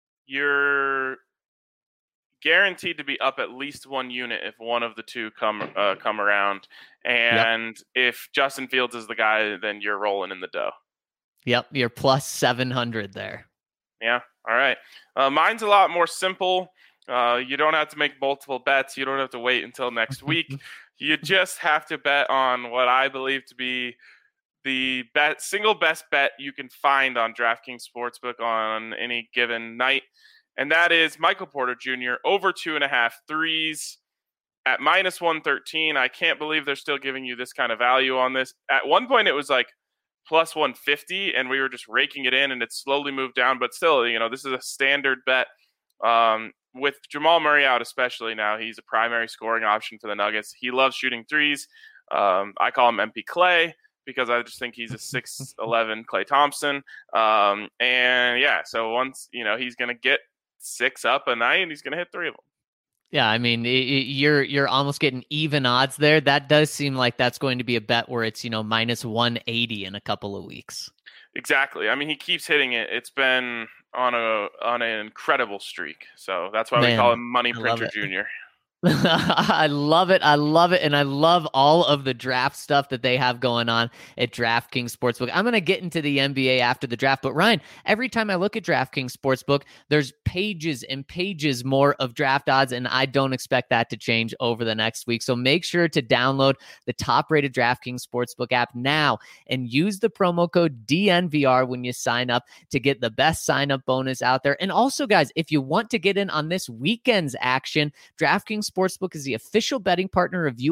you're guaranteed to be up at least one unit if one of the two come around. And if Justin Fields is the guy, then you're rolling in the dough. Yep, you're plus 700 there. Yeah, all right. Mine's a lot more simple. You don't have to make multiple bets. You don't have to wait until next week. You just have to bet on what I believe to be the single best bet you can find on DraftKings Sportsbook on any given night. And that is Michael Porter Jr. over 2.5 threes at minus 113. I can't believe they're still giving you this kind of value on this. At one point, it was like plus 150, and we were just raking it in, and it slowly moved down. But still, this is a standard bet. With Jamal Murray out, especially now, he's a primary scoring option for the Nuggets. He loves shooting threes. I call him MP Clay because I just think he's a 6'11" Klay Thompson. So once, he's going to get 6 up a night, and he's going to hit 3 of them. Yeah, I mean, you're almost getting even odds there. That does seem like that's going to be a bet where it's, minus 180 in a couple of weeks. Exactly. I mean, he keeps hitting it. It's been on an incredible streak. So that's why we call him Money Printer Jr. I love it. I love it. And I love all of the draft stuff that they have going on at DraftKings Sportsbook. I'm going to get into the NBA after the draft. But Ryan, every time I look at DraftKings Sportsbook, there's pages and pages more of draft odds. And I don't expect that to change over the next week. So make sure to download the top-rated DraftKings Sportsbook app now and use the promo code DNVR when you sign up to get the best sign-up bonus out there. And also, guys, if you want to get in on this weekend's action, DraftKings Sportsbook is the official betting partner of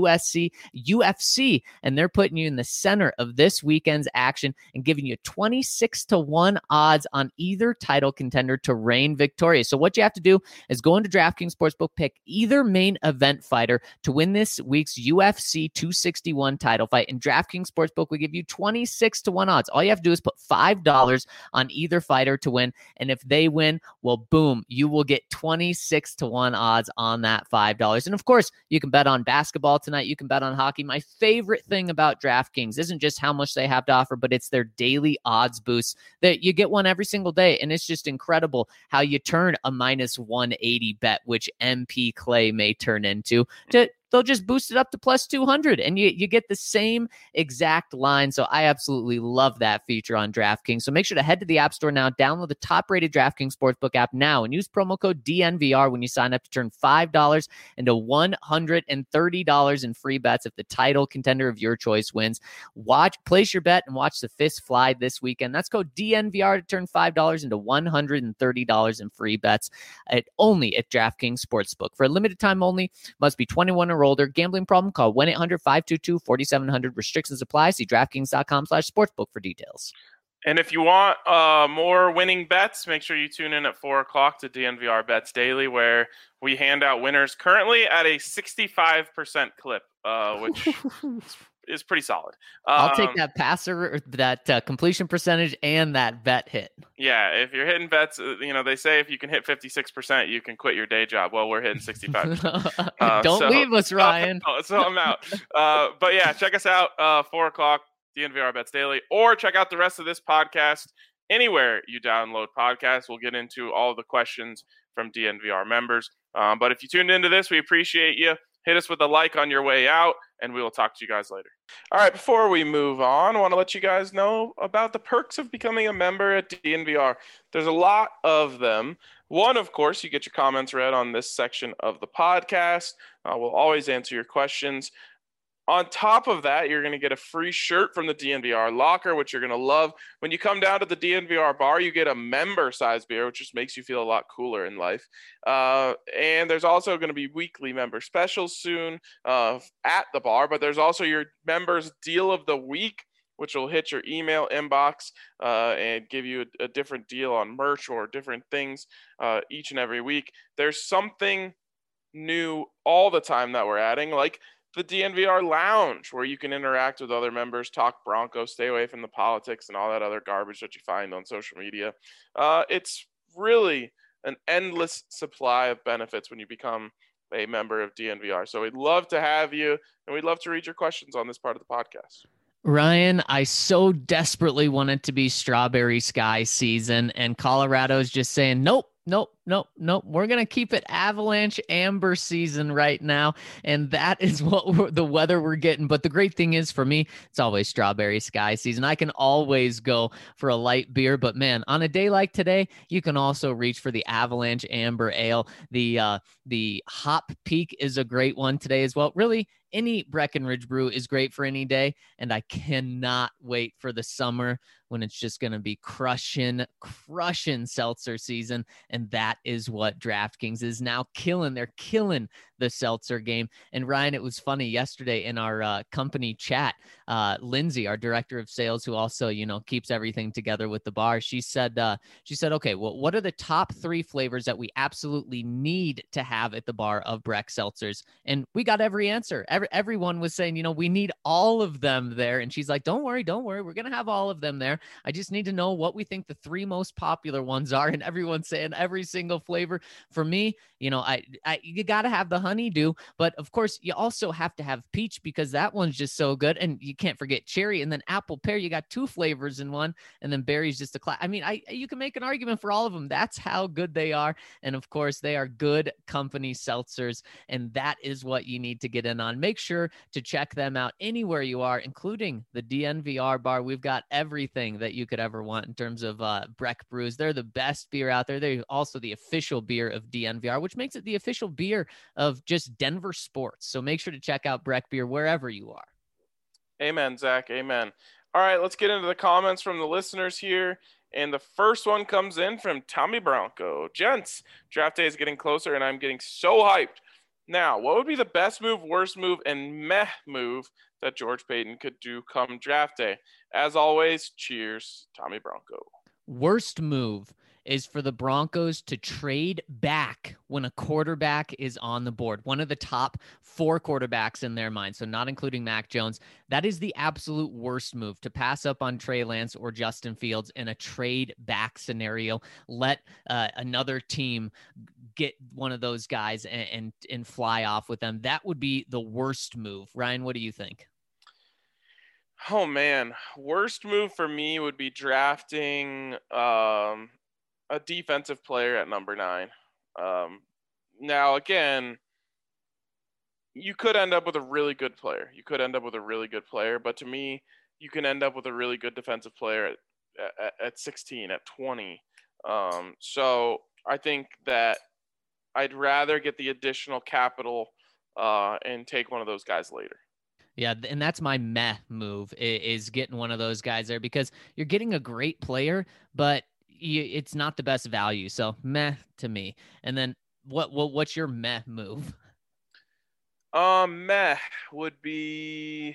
UFC, and they're putting you in the center of this weekend's action and giving you 26-1 odds on either title contender to reign victorious. So what you have to do is go into DraftKings Sportsbook, pick either main event fighter to win this week's UFC 261 title fight, and DraftKings Sportsbook will give you 26-1 odds. All you have to do is put $5 on either fighter to win, and if they win, well, boom, you will get 26-1 odds on that $5. And of course, you can bet on basketball tonight. You can bet on hockey. My favorite thing about DraftKings isn't just how much they have to offer, but it's their daily odds boosts that you get one every single day. And it's just incredible how you turn a minus 180 bet, which MP Clay may turn into, they'll just boost it up to plus 200 and you get the same exact line. So I absolutely love that feature on DraftKings. So make sure to head to the App Store now, download the top-rated DraftKings Sportsbook app now, and use promo code DNVR when you sign up to turn $5 into $130 in free bets if the title contender of your choice wins. Place your bet and watch the fists fly this weekend. That's code DNVR to turn $5 into $130 in free bets only at DraftKings Sportsbook. For a limited time only, must be 21 or older. Gambling problem? Call 1-800-522-4700. Restrictions apply. See DraftKings.com/sportsbook for details. And if you want more winning bets, make sure you tune in at 4 o'clock to DNVR Bets Daily, where we hand out winners currently at a 65% clip, which is pretty solid. I'll take that passer, that completion percentage, and that bet hit. Yeah, if you're hitting bets, they say if you can hit 56%, you can quit your day job. Well, we're hitting 65%. Don't leave us, Ryan. So I'm out. But yeah, check us out, 4 o'clock, DNVR Bets Daily, or check out the rest of this podcast anywhere you download podcasts. We'll get into all the questions from DNVR members. But if you tuned into this, we appreciate you. Hit us with a like on your way out, and we will talk to you guys later. All right, before we move on, I want to let you guys know about the perks of becoming a member at DNVR. There's a lot of them. One, of course, you get your comments read on this section of the podcast. We'll always answer your questions. On top of that, you're going to get a free shirt from the DNVR locker, which you're going to love. When you come down to the DNVR bar, you get a member-size beer, which just makes you feel a lot cooler in life. And there's also going to be weekly member specials soon at the bar, but there's also your members' deal of the week, which will hit your email inbox and give you a different deal on merch or different things each and every week. There's something new all the time that we're adding, like the DNVR Lounge, where you can interact with other members, talk Broncos, stay away from the politics and all that other garbage that you find on social media. It's really an endless supply of benefits when you become a member of DNVR. So we'd love to have you, and we'd love to read your questions on this part of the podcast. Ryan, I so desperately want it to be strawberry sky season, and Colorado's just saying, nope, Nope. We're going to keep it Avalanche Amber season right now. And that is what the weather we're getting. But the great thing is for me, it's always Strawberry Sky season. I can always go for a light beer. But man, on a day like today, you can also reach for the Avalanche Amber Ale. The Hop Peak is a great one today as well. Really, any Breckenridge brew is great for any day. And I cannot wait for the summer when it's just going to be crushing seltzer season. And that is what DraftKings is now killing. They're killing the seltzer game. And Ryan, it was funny yesterday in our company chat, Lindsay, our director of sales, who also, keeps everything together with the bar. She said, okay, well, what are the top 3 flavors that we absolutely need to have at the bar of Breck seltzers? And we got every answer. Everyone was saying, we need all of them there. And she's like, don't worry. We're going to have all of them there. I just need to know what we think the 3 most popular ones are. And everyone's saying every single flavor. For me, you got to have the honeydew, but of course you also have to have peach because that one's just so good. And you can't forget cherry and then apple pear. You got 2 flavors in one, and then berry's just a class. I mean, you can make an argument for all of them. That's how good they are. And of course they are good company seltzers. And that is what you need to get in on. Make sure to check them out anywhere you are, including the DNVR bar. We've got everything that you could ever want in terms of Breck brews. They're the best beer out there. They're also the official beer of DNVR, which makes it the official beer of just Denver sports. So make sure to check out Breck beer wherever you are. Amen, Zach. Amen. All right, let's get into the comments from the listeners here. And the first one comes in from Tommy Bronco. Gents, draft day is getting closer, and I'm getting so hyped. Now, what would be the best move, worst move, and meh move that George Payton could do come draft day? As always, cheers, Tommy Bronco. Worst move is for the Broncos to trade back when a quarterback is on the board. One of the top 4 quarterbacks in their mind, so not including Mac Jones. That is the absolute worst move, to pass up on Trey Lance or Justin Fields in a trade back scenario. Let another team get one of those guys and fly off with them. That would be the worst move. Ryan, what do you think? Oh, man. Worst move for me would be drafting a defensive player at number 9. Now, again, you could end up with a really good player. But to me, you can end up with a really good defensive player at 16, at 20. So I think that I'd rather get the additional capital and take one of those guys later. Yeah, and that's my meh move, is getting one of those guys there, because you're getting a great player, but it's not the best value. So meh to me. And then what's your meh move? Meh would be,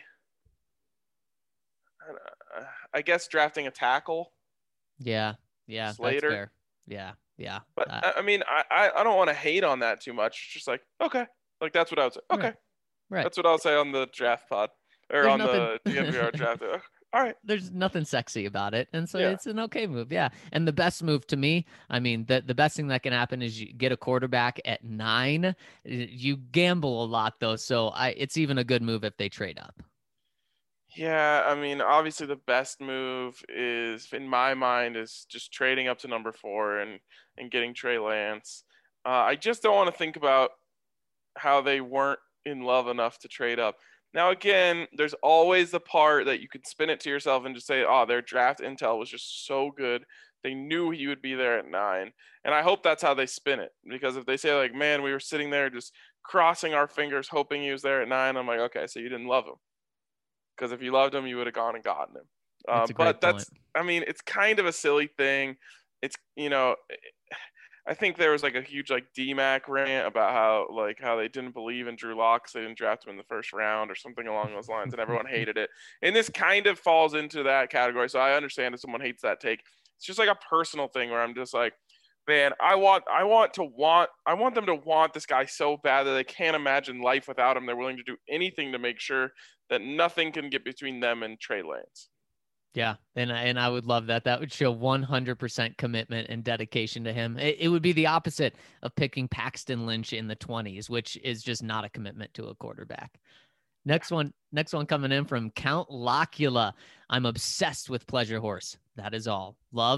I guess, drafting a tackle. Yeah, Slater. That's fair. Yeah. But I mean, I don't want to hate on that too much. It's just like, okay, like that's what I would say. Okay, right. That's what I'll say on the draft pod or There's on nothing... the DNVR draft. All right. There's nothing sexy about it. And so It's an okay move. Yeah. And the best move to me, I mean, the best thing that can happen is you get a quarterback at 9. You gamble a lot though. So it's even a good move if they trade up. Yeah. I mean, obviously the best move is, in my mind, is just trading up to number 4 and getting Trey Lance. I just don't want to think about how they weren't in love enough to trade up. Now, again, there's always the part that you could spin it to yourself and just say, oh, their draft intel was just so good. They knew he would be there at 9. And I hope that's how they spin it. Because if they say, like, man, we were sitting there just crossing our fingers hoping he was there at 9, I'm like, okay, so you didn't love him. Because if you loved him, you would have gone and gotten him. I mean, it's kind of a silly thing. It's, I think there was like a huge DMAC rant about how they didn't believe in Drew Lock because they didn't draft him in the first round or something along those lines, and everyone hated it. And this kind of falls into that category. So I understand if someone hates that take. It's just like a personal thing where I'm just like, man, I want them to want this guy so bad that they can't imagine life without him. They're willing to do anything to make sure that nothing can get between them and Trey Lance. Yeah, and I would love that. That would show 100% commitment and dedication to him. It would be the opposite of picking Paxton Lynch in the 20s, which is just not a commitment to a quarterback. Next one coming in from Count Locula. I'm obsessed with Pleasure Horse. That is all. Love,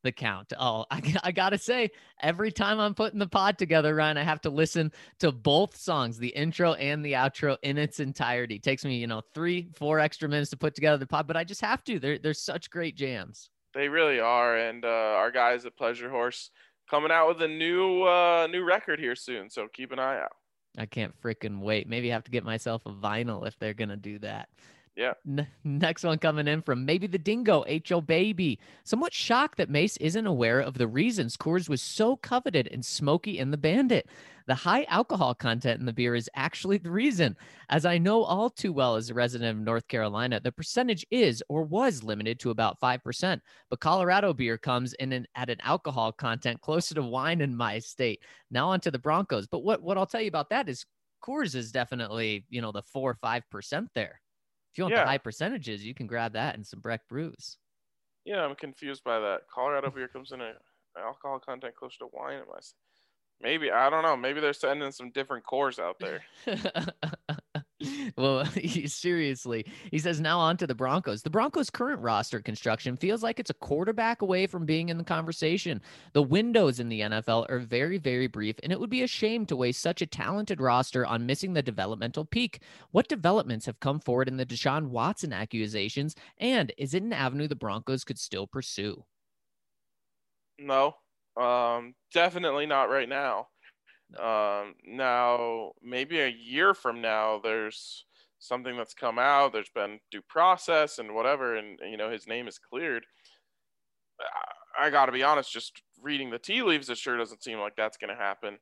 The Count. Oh, I gotta say, every time I'm putting the pod together, Ryan, I have to listen to both songs, the intro and the outro in its entirety. It takes me, 3-4 extra minutes to put together the pod, but I just have to. They're such great jams. They really are, and our guys at Pleasure Horse coming out with a new record here soon, so keep an eye out. I can't freaking wait. Maybe I have to get myself a vinyl if they're gonna do that. Yeah. Next one coming in from Maybe the Dingo, H.O. Baby. Somewhat shocked that Mace isn't aware of the reasons Coors was so coveted and Smokey and the Bandit. The high alcohol content in the beer is actually the reason. As I know all too well as a resident of North Carolina, the percentage is or was limited to about 5%. But Colorado beer comes in at an alcohol content closer to wine in my state. Now on to the Broncos. But what I'll tell you about that is Coors is definitely, the 4 or 5% there. If you want the high percentages, you can grab that and some Breck brews. Yeah, I'm confused by that. Colorado beer comes in an alcohol content close to wine. Maybe, I don't know. Maybe they're sending some different cores out there. Well, seriously, he says now on to the Broncos. The Broncos' current roster construction feels like it's a quarterback away from being in the conversation. The windows in the NFL are very, very brief, and it would be a shame to waste such a talented roster on missing the developmental peak. What developments have come forward in the Deshaun Watson accusations, and is it an avenue the Broncos could still pursue? No, definitely not right now. Now maybe a year from now, there's something that's come out. There's been due process and whatever, and his name is cleared. I got to be honest, just reading the tea leaves, it sure doesn't seem like that's going to happen.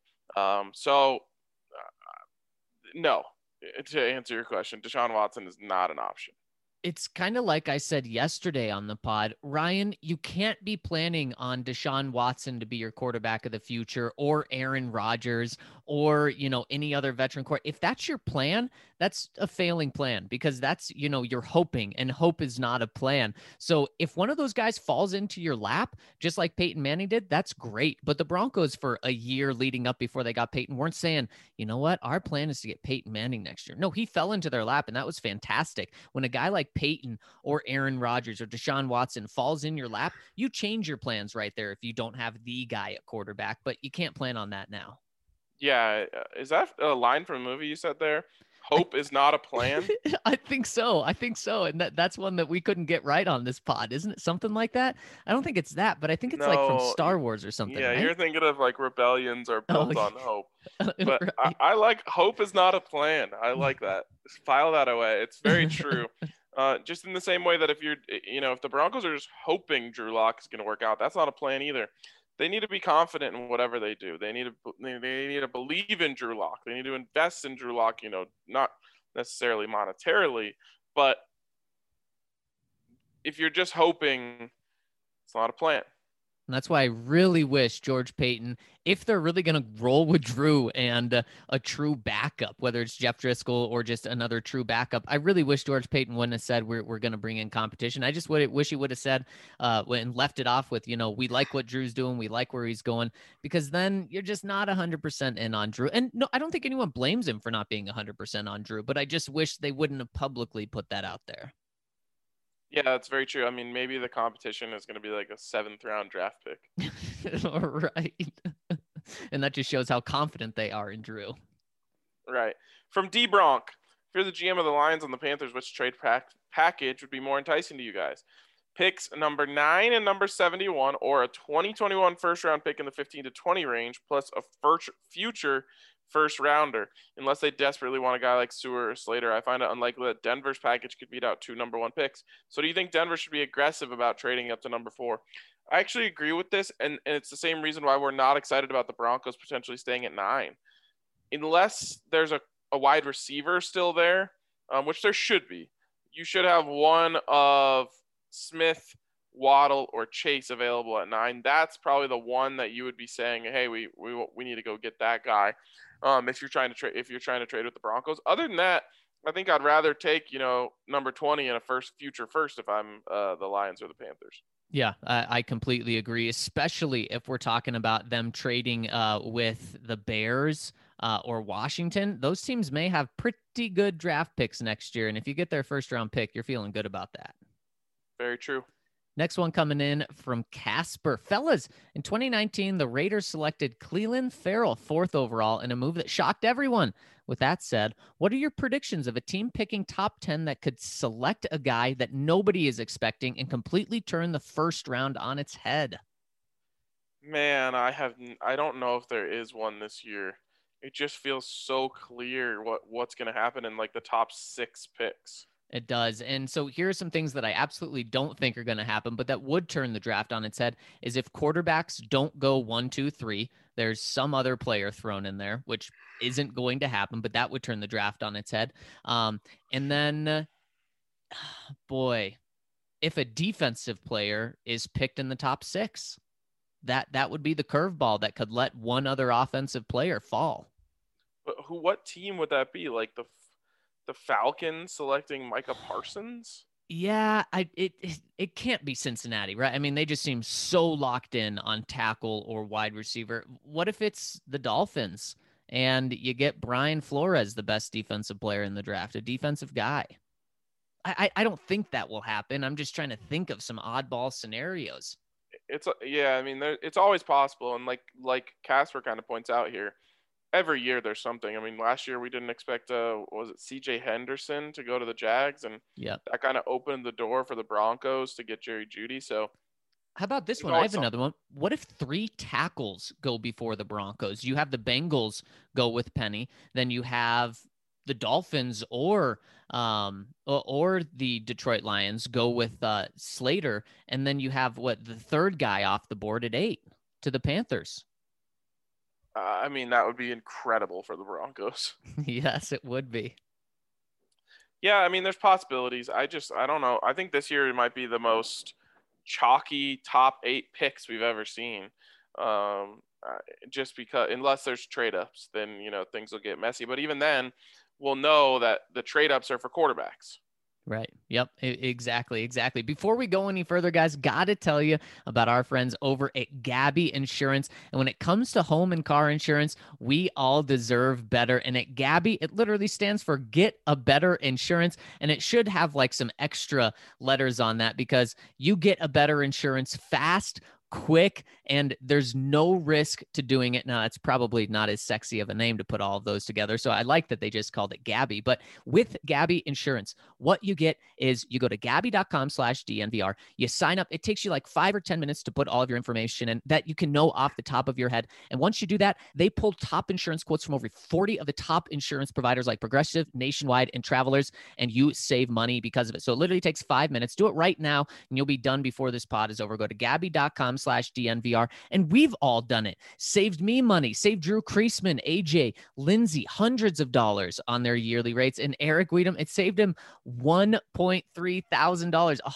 No. To answer your question, Deshaun Watson is not an option. It's kind of like I said yesterday on the pod, Ryan, you can't be planning on Deshaun Watson to be your quarterback of the future or Aaron Rodgers or, any other veteran quarterback. If that's your plan, that's a failing plan because that's, you're hoping, and hope is not a plan. So if one of those guys falls into your lap, just like Peyton Manning did, that's great. But the Broncos for a year leading up before they got Peyton weren't saying, you know what, our plan is to get Peyton Manning next year. No, he fell into their lap and that was fantastic. When a guy like Peyton or Aaron Rodgers or Deshaun Watson falls in your lap, you change your plans right there if you don't have the guy at quarterback, but you can't plan on that now. Yeah. Is that a line from a movie you said there? Hope is not a plan? I think so. And that's one that we couldn't get right on this pod. Isn't it something like that? I don't think it's that, but I think it's like from Star Wars or something. Yeah, right? You're thinking of like rebellions are built on hope. But right. I like hope is not a plan. I like that. File that away. It's very true. Just in the same way that if the Broncos are just hoping Drew Lock is going to work out, that's not a plan either. They need to be confident in whatever they do. They need to believe in Drew Lock. They need to invest in Drew Lock, not necessarily monetarily, but if you're just hoping, it's not a plan. And that's why I really wish George Paton, if they're really going to roll with Drew and a true backup, whether it's Jeff Driscoll or just another true backup, I really wish George Paton wouldn't have said we're going to bring in competition. I just wish he would have said and left it off with, we like what Drew's doing. We like where he's going, because then you're just not 100% in on Drew. And no, I don't think anyone blames him for not being 100% on Drew, but I just wish they wouldn't have publicly put that out there. Yeah, that's very true. I mean, maybe the competition is going to be like a 7th round draft pick. Right. And that just shows how confident they are in Drew. Right. From D Bronk, if you're the GM of the Lions and the Panthers, which trade package would be more enticing to you guys? Picks number 9 and number 71, or a 2021 first round pick in the 15 to 20 range, plus a future first rounder, unless they desperately want a guy like Sewell or Slater. I find it unlikely that Denver's package could beat out 2 number 1 picks. So do you think Denver should be aggressive about trading up to number 4? I actually agree with this, and it's the same reason why we're not excited about the Broncos potentially staying at 9. Unless there's a wide receiver still there, which there should be. You should have one of Smith, Waddle, or Chase available at 9. That's probably the one that you would be saying, hey, we need to go get that guy. If you're trying to trade with the Broncos. Other than that, I think I'd rather take, number 20 and a future first if I'm the Lions or the Panthers. Yeah, I completely agree, especially if we're talking about them trading with the Bears or Washington. Those teams may have pretty good draft picks next year. And if you get their first round pick, you're feeling good about that. Very true. Next one coming in from Casper. Fellas, in 2019, the Raiders selected Clelin Ferrell 4th overall in a move that shocked everyone. With that said, what are your predictions of a team picking top 10 that could select a guy that nobody is expecting and completely turn the first round on its head? Man, I don't know if there is one this year. It just feels so clear what's going to happen in like the top 6 picks. It does. And so here are some things that I absolutely don't think are going to happen, but that would turn the draft on its head is if quarterbacks don't go 1, 2, 3, there's some other player thrown in there, which isn't going to happen, but that would turn the draft on its head. And then, boy, if a defensive player is picked in the top 6, that would be the curveball that could let one other offensive player fall. But what team would that be? Like the Falcons selecting Micah Parsons? Yeah, it can't be Cincinnati, right? I mean, they just seem so locked in on tackle or wide receiver. What if it's the Dolphins and you get Brian Flores, the best defensive player in the draft, a defensive guy? I don't think that will happen. I'm just trying to think of some oddball scenarios. I mean, it's always possible, and like Casper kind of points out here, every year there's something. I mean, last year we didn't expect was it C.J. Henderson to go to the Jags, and that kind of opened the door for the Broncos to get Jerry Jeudy. So, how about this one? I have another one. What if 3 tackles go before the Broncos? You have the Bengals go with Penny, then you have the Dolphins or the Detroit Lions go with Slater, and then you have the third guy off the board at 8 to the Panthers. I mean, that would be incredible for the Broncos. Yes, it would be. Yeah, I mean, there's possibilities. I don't know. I think this year it might be the most chalky top 8 picks we've ever seen. Just because, unless there's trade ups, then things will get messy. But even then, we'll know that the trade ups are for quarterbacks. Right. Yep. Exactly. Before we go any further, guys, got to tell you about our friends over at Gabi Insurance. And when it comes to home and car insurance, we all deserve better. And at Gabi, it literally stands for Get a Better Insurance. And it should have like some extra letters on that because you get a better insurance fast, quick, and there's no risk to doing it. Now, it's probably not as sexy of a name to put all of those together, so I like that they just called it Gabi. But with Gabi Insurance, what you get is you go to gabi.com/DNVR, you sign up. It takes you like 5 or 10 minutes to put all of your information in that you can know off the top of your head. And once you do that, they pull top insurance quotes from over 40 of the top insurance providers like Progressive, Nationwide, and Travelers, and you save money because of it. So it literally takes 5 minutes. Do it right now, and you'll be done before this pod is over. Go to gabi.com/DNVR. And we've all done it. Saved me money, saved Drew Creasman, AJ, Lindsay, hundreds of dollars on their yearly rates. And Eric Weedham, it saved him $1.3 thousand.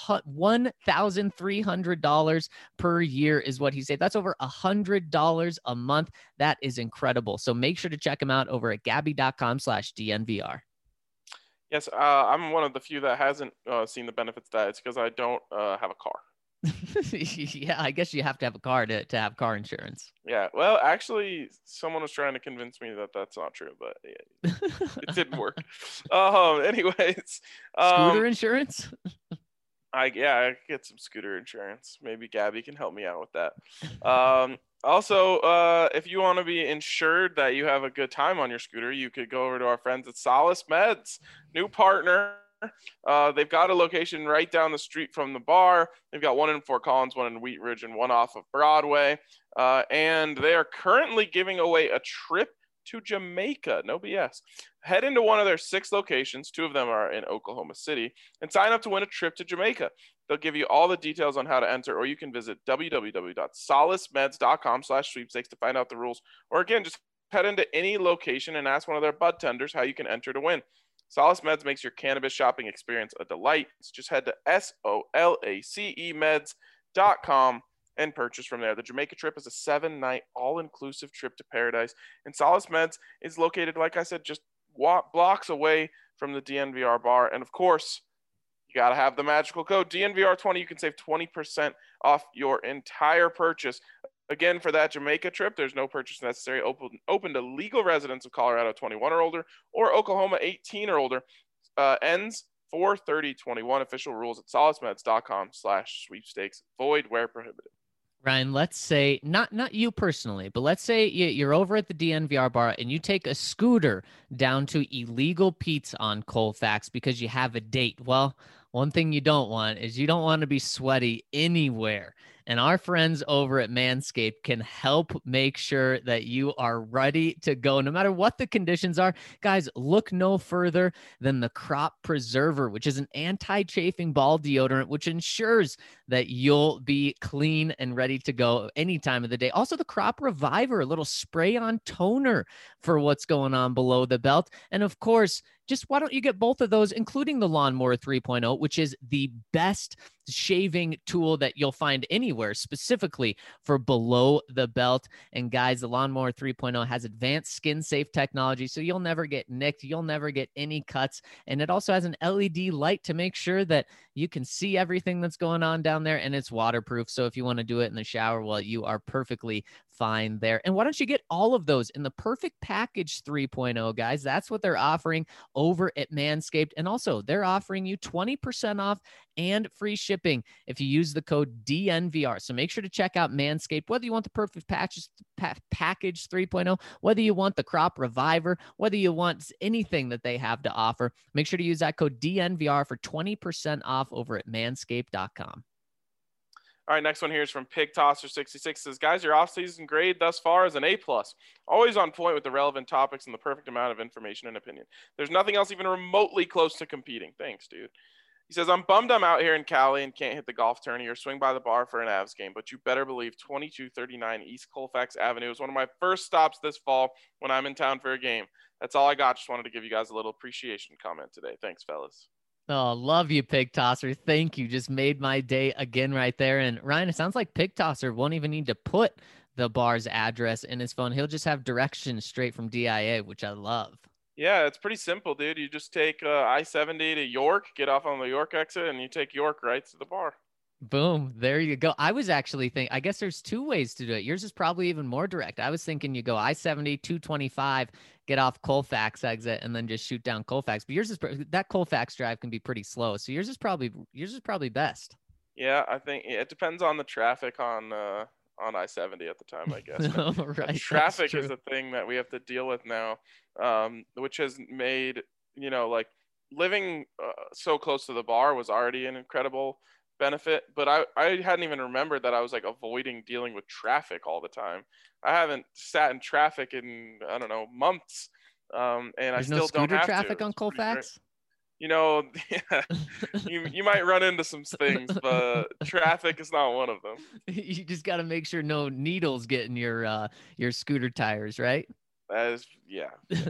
$1,300 per year is what he saved. That's over $100 a month. That is incredible. So make sure to check him out over at gabi.com/DNVR. Yes, I'm one of the few that hasn't seen the benefits of that. It's because I don't have a car. Yeah, I guess you have to have a car to have car insurance. Yeah, well, actually, someone was trying to convince me that that's not true, but yeah, it didn't work. Anyways, scooter insurance. I get some scooter insurance. Maybe Gabi can help me out with that. Also, if you want to be insured that you have a good time on your scooter, you could go over to our friends at Solace Meds, new partner. They've got a location right down the street from the bar. They've got one in Fort Collins, one in Wheat Ridge, and one off of Broadway. And they are currently giving away a trip to Jamaica. No BS. Head into one of their 6 locations. 2 of them are in Oklahoma City, and sign up to win a trip to Jamaica. They'll give you all the details on how to enter, or you can visit www.solacemeds.com/sweepstakes to find out the rules. Or again, just head into any location and ask one of their bud tenders how you can enter to win. Solace Meds makes your cannabis shopping experience a delight. Just head to SOLACEmeds.com and purchase from there. The Jamaica trip is a 7-night all-inclusive trip to paradise. And Solace Meds is located, like I said, just blocks away from the DNVR bar. And of course, you got to have the magical code DNVR20. You can save 20% off your entire purchase. Again, for that Jamaica trip, there's no purchase necessary. Open to legal residents of Colorado 21 or older, or Oklahoma 18 or older. Ends 4/30/21. Official rules at solacemeds.com/sweepstakes. Void where prohibited. Ryan, let's say not you personally, but let's say you're over at the DNVR bar and you take a scooter down to Illegal Pete's on Colfax because you have a date. Well, one thing you don't want is you don't want to be sweaty anywhere. And our friends over at Manscaped can help make sure that you are ready to go no matter what the conditions are. Guys, look no further than the Crop Preserver, which is an anti-chafing ball deodorant, which ensures that you'll be clean and ready to go any time of the day. Also, the Crop Reviver, a little spray-on toner for what's going on below the belt. And of course, just why don't you get both of those, including the Lawnmower 3.0, which is the best shaving tool that you'll find anywhere, specifically for below the belt. And guys, the Lawnmower 3.0 has advanced skin safe technology, so you'll never get nicked. You'll never get any cuts. And it also has an LED light to make sure that you can see everything that's going on down there, and it's waterproof. So if you want to do it in the shower, well, you are perfectly fine there. And why don't you get all of those in the Perfect Package 3.0, guys? That's what they're offering over at Manscaped. And also, they're offering you 20% off and free shipping if you use the code DNVR. So make sure to check out Manscaped, whether you want the Perfect Package 3.0, whether you want the Crop Reviver, whether you want anything that they have to offer. Make sure to use that code DNVR for 20% off over at manscaped.com. All right, next one here is from Pig Tosser 66. Says, guys, your offseason grade thus far is an A+. Always on point with the relevant topics and the perfect amount of information and opinion. There's nothing else even remotely close to competing. Thanks, dude. He says, I'm bummed I'm out here in Cali and can't hit the golf tourney or swing by the bar for an Avs game, but you better believe 2239 East Colfax Avenue is one of my first stops this fall when I'm in town for a game. That's all I got. Just wanted to give you guys a little appreciation comment today. Thanks, fellas. Oh, love you, Pig Tosser. Thank you. Just made my day again right there. And Ryan, it sounds like Pig Tosser won't even need to put the bar's address in his phone. He'll just have directions straight from DIA, which I love. Yeah, it's pretty simple, dude. You just take I-70 to York, get off on the York exit, and you take York right to the bar. Boom. There you go. I was actually thinking, I guess there's two ways to do it. Yours is probably even more direct. I was thinking you go I-70, 225, get off Colfax exit, and then just shoot down Colfax. But yours is, that Colfax drive can be pretty slow. So yours is probably best. Yeah, I think it depends on the traffic on I-70 at the time, I guess. Right. Traffic is a thing that we have to deal with now, which has made, like living so close to the bar was already an incredible benefit, but I hadn't even remembered that I was like avoiding dealing with traffic all the time. I haven't sat in traffic in, I don't know, months. And There's I still no scooter don't have traffic to. on Colfax? Yeah, you might run into some things, but traffic is not one of them. You just got to make sure no needles get in your scooter tires, right? Yeah.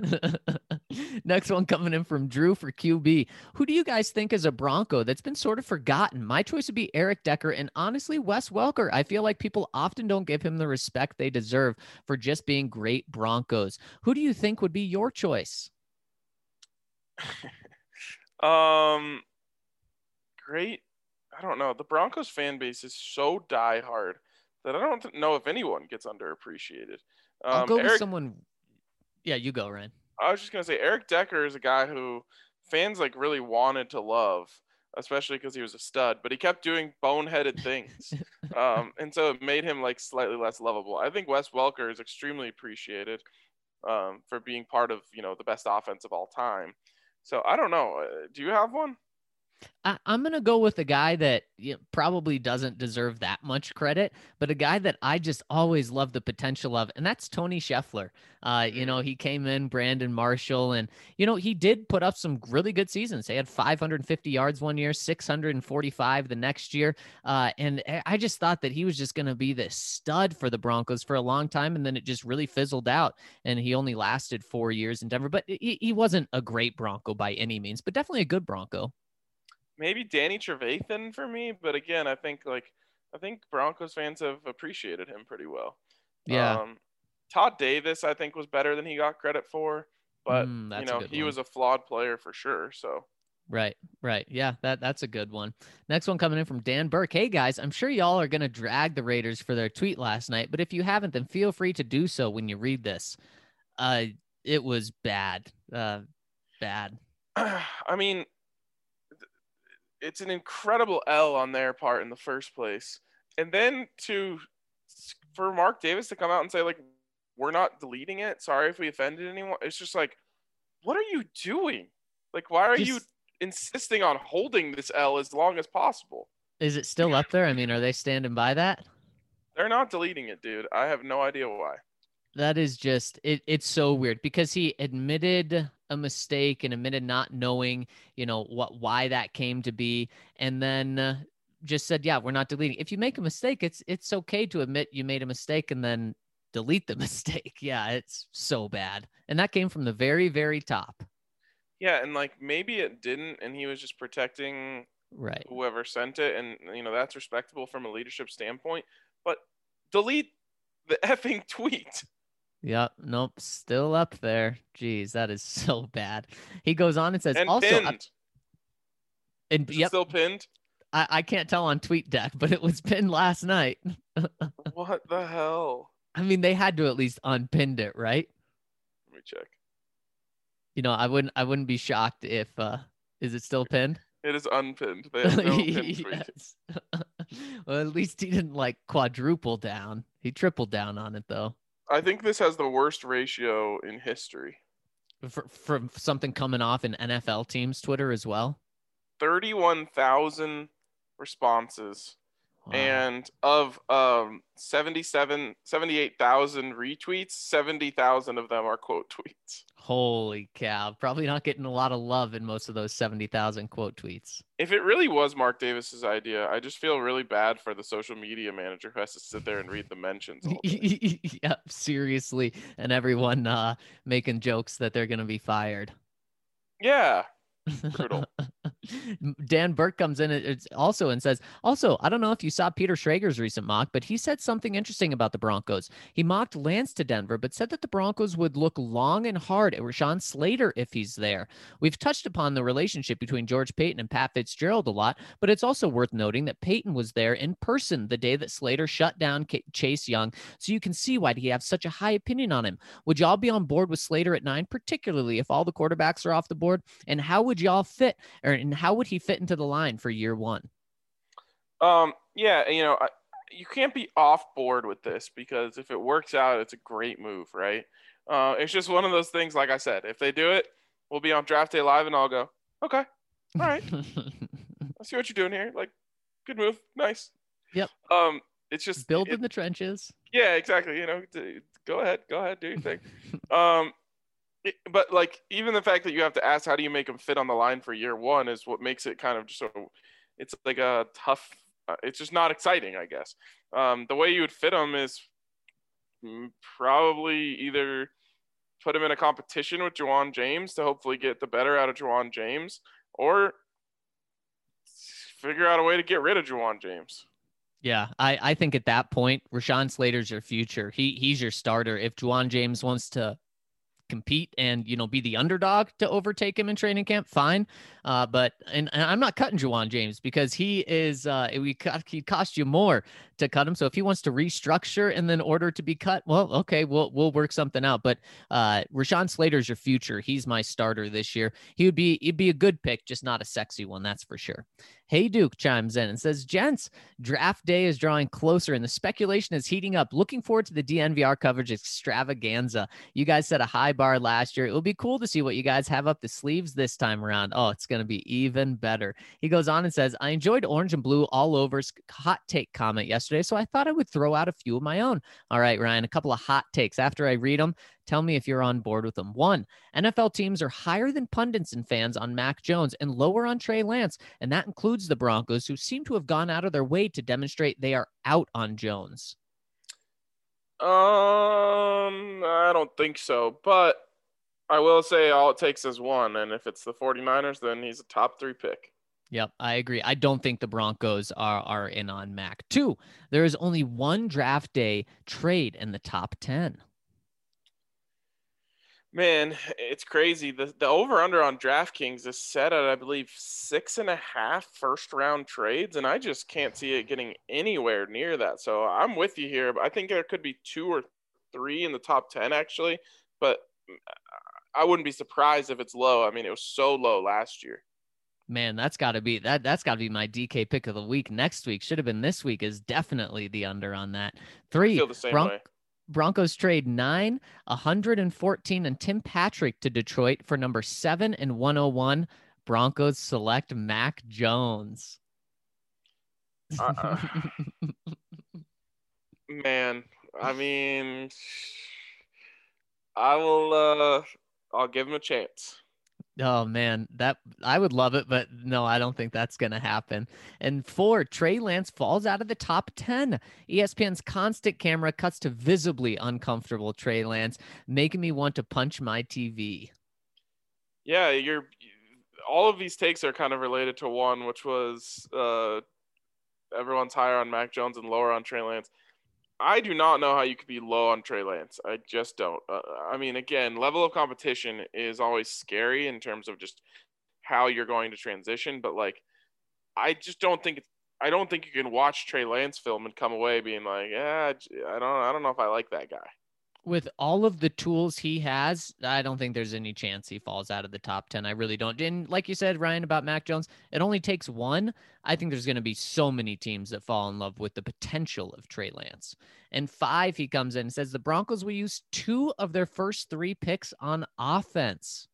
Next one coming in from Drew for QB. Who do you guys think is a Bronco that's been sort of forgotten? My choice would be Eric Decker and honestly Wes Welker. I feel like people often don't give him the respect they deserve for just being great Broncos. Who do you think would be your choice? Great. I don't know. The Broncos fan base is so diehard that I don't know if anyone gets underappreciated. I'll go with someone. Yeah, you go, Ryan. I was just going to say Eric Decker is a guy who fans like really wanted to love, especially because he was a stud, but he kept doing boneheaded things. And so it made him like slightly less lovable. I think Wes Welker is extremely appreciated for being part of, the best offense of all time. So I don't know. Do you have one? I'm going to go with a guy that probably doesn't deserve that much credit, but a guy that I just always love the potential of, and that's Tony Scheffler. He came in, Brandon Marshall, and, he did put up some really good seasons. They had 550 yards one year, 645 the next year. And I just thought that he was just going to be this stud for the Broncos for a long time, and then it just really fizzled out, and he only lasted 4 years in Denver. But he wasn't a great Bronco by any means, but definitely a good Bronco. Maybe Danny Trevathan for me, but again, I think Broncos fans have appreciated him pretty well. Yeah. Todd Davis, I think, was better than he got credit for, but he was a flawed player for sure. So. Right. Yeah, that's a good one. Next one coming in from Dan Burke. Hey guys, I'm sure y'all are gonna drag the Raiders for their tweet last night, but if you haven't, then feel free to do so when you read this. It was bad. Bad. I mean, it's an incredible L on their part in the first place. And then for Mark Davis to come out and say, like, we're not deleting it. Sorry if we offended anyone. It's just like, what are you doing? Like, why are you insisting on holding this L as long as possible? Is it still up there? I mean, are they standing by that? They're not deleting it, dude. I have no idea why. That is just it's so weird because he admitted a mistake and admitted not knowing, why that came to be, and then just said, "Yeah, we're not deleting." If you make a mistake, it's okay to admit you made a mistake and then delete the mistake. Yeah, it's so bad. And that came from the very, very top. Yeah, and like maybe it didn't, and he was just protecting whoever sent it, and that's respectable from a leadership standpoint. But delete the effing tweet. Yep. Nope. Still up there. Jeez, that is so bad. He goes on and says, and also, pinned. And yep, still pinned. I can't tell on TweetDeck, but it was pinned last night. What the hell? I mean, they had to at least unpinned it, right? Let me check. I wouldn't be shocked if is it still pinned? It is unpinned. They have no pinned tweet. Well, at least he didn't like quadruple down. He tripled down on it though. I think this has the worst ratio in history. From something coming off in NFL teams' Twitter as well. 31,000 responses. Wow. And of 78,000 retweets, 70,000 of them are quote tweets. Holy cow. Probably not getting a lot of love in most of those 70,000 quote tweets. If it really was Mark Davis's idea, I just feel really bad for the social media manager who has to sit there and read the mentions all day. Yep, seriously. And everyone making jokes that they're going to be fired. Yeah. Brutal. Dan Burke comes in and says, I don't know if you saw Peter Schrager's recent mock, but he said something interesting about the Broncos. He mocked Lance to Denver, but said that the Broncos would look long and hard at Rashawn Slater if he's there. We've touched upon the relationship between George Paton and Pat Fitzgerald a lot, but it's also worth noting that Paton was there in person the day that Slater shut down Chase Young, so you can see why he have such a high opinion on him. Would y'all be on board with Slater at 9, particularly if all the quarterbacks are off the board? And how would y'all fit, and how would he fit into the line for year one? Yeah, you can't be off board with this because if it works out, it's a great move, right? It's just one of those things, like I said, if they do it, we'll be on draft day live and I'll go, okay, all right. I see what you're doing here. Like, good move. Nice. Yep. It's just build in the trenches. Yeah, exactly. Go ahead, do your thing. But like even the fact that you have to ask how do you make them fit on the line for year one is what makes it kind of just so it's like a tough. It's just not exciting, I guess. The way you would fit them is probably either put him in a competition with Ja'Wuan James to hopefully get the better out of Ja'Wuan James, or figure out a way to get rid of Ja'Wuan James. Yeah, I think at that point, Rashawn Slater's your future. He's your starter. If Ja'Wuan James wants to compete and be the underdog to overtake him in training camp, fine, but I'm not cutting Ja'Wuan James because he is he cost you more to cut him. So if he wants to restructure and then order to be cut, well, okay, we'll work something out. But Rashawn Slater's your future. He's my starter this year. He'd be a good pick, just not a sexy one, that's for sure. Hey Duke chimes in and says, gents, draft day is drawing closer and the speculation is heating up. Looking forward to the DNVR coverage extravaganza. You guys set a high bar last year. It will be cool to see what you guys have up the sleeves this time around. Oh, it's going to be even better. He goes on and says, I enjoyed Orange and Blue all over's hot take comment yesterday, so I thought I would throw out a few of my own. All right, Ryan, a couple of hot takes. After I read them, tell me if you're on board with them. 1, NFL teams are higher than pundits and fans on Mac Jones and lower on Trey Lance, and that includes the Broncos, who seem to have gone out of their way to demonstrate they are out on Jones. I don't think so, but I will say all it takes is one, and if it's the 49ers, then he's a top 3 pick. Yep, I agree. I don't think the Broncos are in on Mac. 2, there is only one draft day trade in the top 10. Man, it's crazy. The over-under on DraftKings is set at, I believe, 6.5 first-round trades, and I just can't see it getting anywhere near that. So I'm with you here. I think there could be 2 or 3 in the top 10, actually, but I wouldn't be surprised if it's low. I mean, it was so low last year. Man, that's got to be that's got to be my DK pick of the week next week. Should have been this week, is definitely the under on that. I 3, feel the same way. Broncos trade 9, 114, and Tim Patrick to Detroit for number 7 and 101. Broncos select Mac Jones. Man, I mean, I'll give him a chance. Oh man, that I would love it, but no, I don't think that's gonna happen. And 4, Trey Lance falls out of the top 10. ESPN's constant camera cuts to visibly uncomfortable Trey Lance, making me want to punch my TV. Yeah, all of these takes are kind of related to one, which was everyone's higher on Mac Jones and lower on Trey Lance. I do not know how you could be low on Trey Lance. I just don't. I mean, again, level of competition is always scary in terms of just how you're going to transition. But like, I just don't think I don't think you can watch Trey Lance film and come away being like, yeah, I don't know if I like that guy. With all of the tools he has, I don't think there's any chance he falls out of the top 10. I really don't. And like you said, Ryan, about Mac Jones, it only takes one. I think there's going to be so many teams that fall in love with the potential of Trey Lance. And 5, he comes in and says the Broncos will use 2 of their first 3 picks on offense.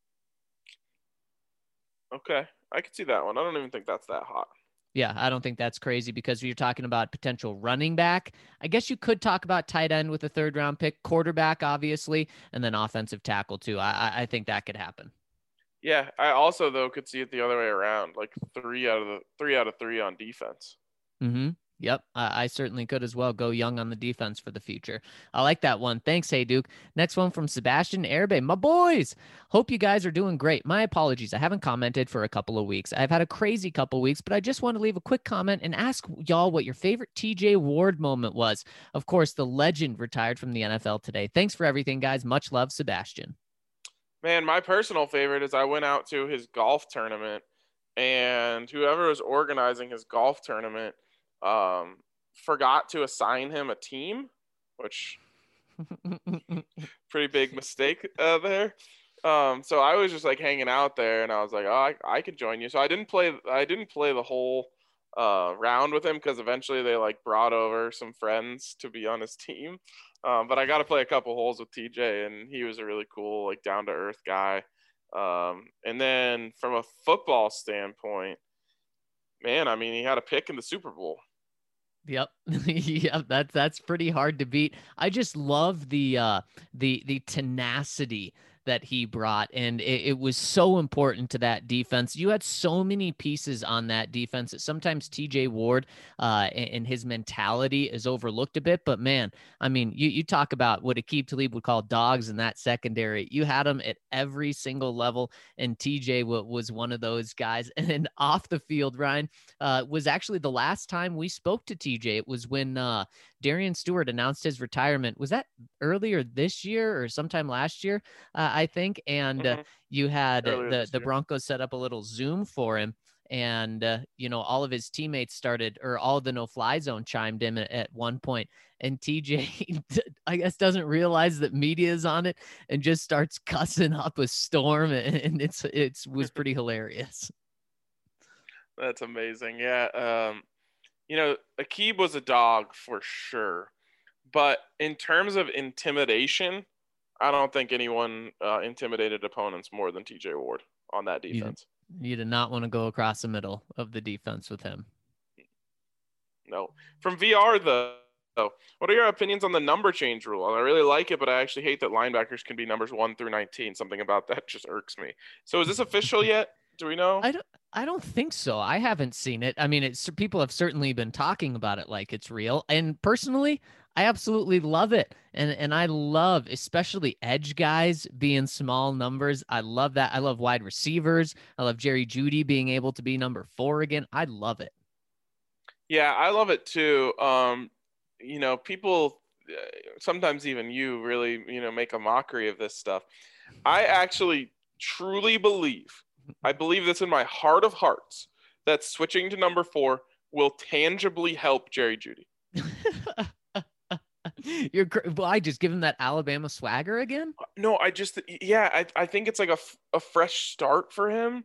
Okay, I could see that one. I don't even think that's that hot. Yeah, I don't think that's crazy because you're talking about potential running back. I guess you could talk about tight end with a 3rd round pick, quarterback, obviously, and then offensive tackle too. I think that could happen. Yeah, I also though could see it the other way around, like 3 out of 3 on defense. Mm-hmm. Yep, I certainly could as well. Go young on the defense for the future. I like that one. Thanks, Hey Duke. Next one from Sebastian Erbe. My boys, hope you guys are doing great. My apologies. I haven't commented for a couple of weeks. I've had a crazy couple of weeks, but I just want to leave a quick comment and ask y'all what your favorite TJ Ward moment was. Of course, the legend retired from the NFL today. Thanks for everything, guys. Much love, Sebastian. Man, my personal favorite is I went out to his golf tournament, and whoever was organizing his golf tournament forgot to assign him a team, which pretty big mistake there. So I was just like hanging out there, and I was like, oh, I could join you. So I didn't play the whole round with him because eventually they like brought over some friends to be on his team. But I got to play a couple holes with TJ, and he was a really cool, like down to earth guy. And then from a football standpoint, man, I mean, he had a pick in the Super Bowl. Yep. Yep. That's pretty hard to beat. I just love the tenacity that he brought, and it was so important to that defense. You had so many pieces on that defense that sometimes TJ Ward and his mentality is overlooked a bit. But man, I mean, you talk about what Aqib Talib would call dogs in that secondary. You had them at every single level, and TJ was one of those guys. And then off the field, Ryan, was actually the last time we spoke to TJ. It was when Darian Stewart announced his retirement. Was that earlier this year or sometime last year? I think. And you had the Broncos set up a little Zoom for him. And, all of his teammates started, or all of the no-fly zone chimed in at one point. And TJ, I guess, doesn't realize that media is on it and just starts cussing up a storm. And it was pretty hilarious. That's amazing. Yeah. Aqib was a dog for sure. But in terms of intimidation, I don't think anyone intimidated opponents more than TJ Ward on that defense. You did not want to go across the middle of the defense with him. No. From VR, though, what are your opinions on the number change rule? I really like it, but I actually hate that linebackers can be numbers 1 through 19. Something about that just irks me. So is this official yet? Do we know? I don't think so. I haven't seen it. I mean, people have certainly been talking about it like it's real. And personally, I absolutely love it. And I love especially edge guys being small numbers. I love that. I love wide receivers. I love Jerry Jeudy being able to be number 4 again. I love it. Yeah, I love it too. People, sometimes even you really, make a mockery of this stuff. I actually truly believe, I believe this in my heart of hearts, that switching to number 4 will tangibly help Jerry Jeudy. I just give him that Alabama swagger again. No, I think it's like a fresh start for him.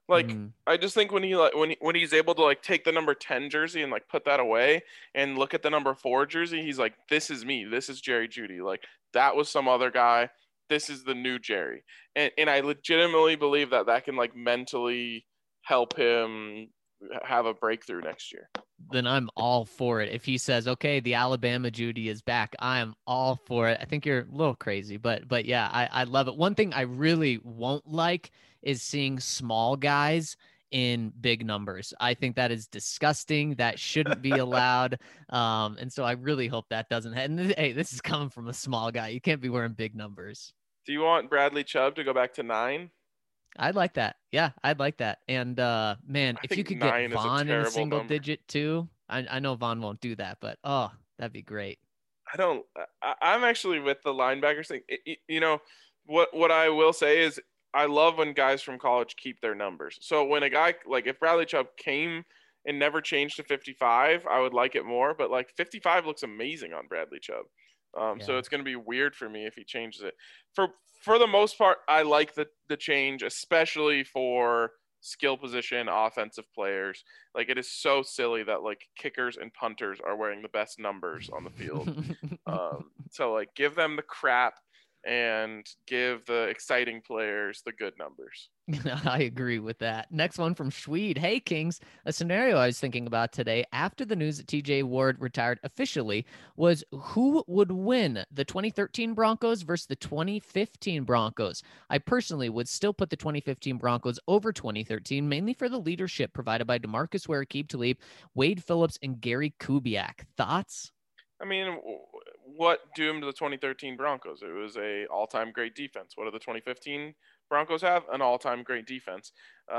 Like, Mhm. I just think when he's able to like take the number 10 jersey and like put that away and look at the number 4 jersey, he's like, this is me. This is Jerry Jeudy. Like, that was some other guy. This is the new Jerry. And I legitimately believe that can like mentally help him have a breakthrough next year. Then I'm all for it. If he says, okay, the Alabama Jeudy is back, I am all for it. I think you're a little crazy, but yeah, I love it. One thing I really won't like is seeing small guys in big numbers. I think that is disgusting. That shouldn't be allowed. And so I really hope that doesn't happen. Hey, this is coming from a small guy. You can't be wearing big numbers. Do you want Bradley Chubb to go back to 9? I'd like that. Yeah, I'd like that. And man, I if you think could get 9 is a Vaughn in a terrible single number. digit too, I know Vaughn won't do that, but oh, that'd be great. I'm actually with the linebackers thing. You know, what I will say is I love when guys from college keep their numbers. So when a guy like if Bradley Chubb came and never changed to 55, I would like it more. But like 55 looks amazing on Bradley Chubb. So Yeah. it's going to be weird for me if he changes it. For the most part, I like the change, especially for skill position offensive players. Like, it is so silly that like kickers and punters are wearing the best numbers on the field. So like give them the crap and give the exciting players the good numbers. I agree with that. Next one from Schweed. Hey, Kings. A scenario I was thinking about today after the news that TJ Ward retired officially was who would win the 2013 Broncos versus the 2015 Broncos. I personally would still put the 2015 Broncos over 2013, mainly for the leadership provided by DeMarcus Ware, Aqib Talib, Wade Phillips, and Gary Kubiak. Thoughts? I mean, what doomed the 2013 Broncos? It was a all-time great defense. What do the 2015 Broncos have? An all-time great defense.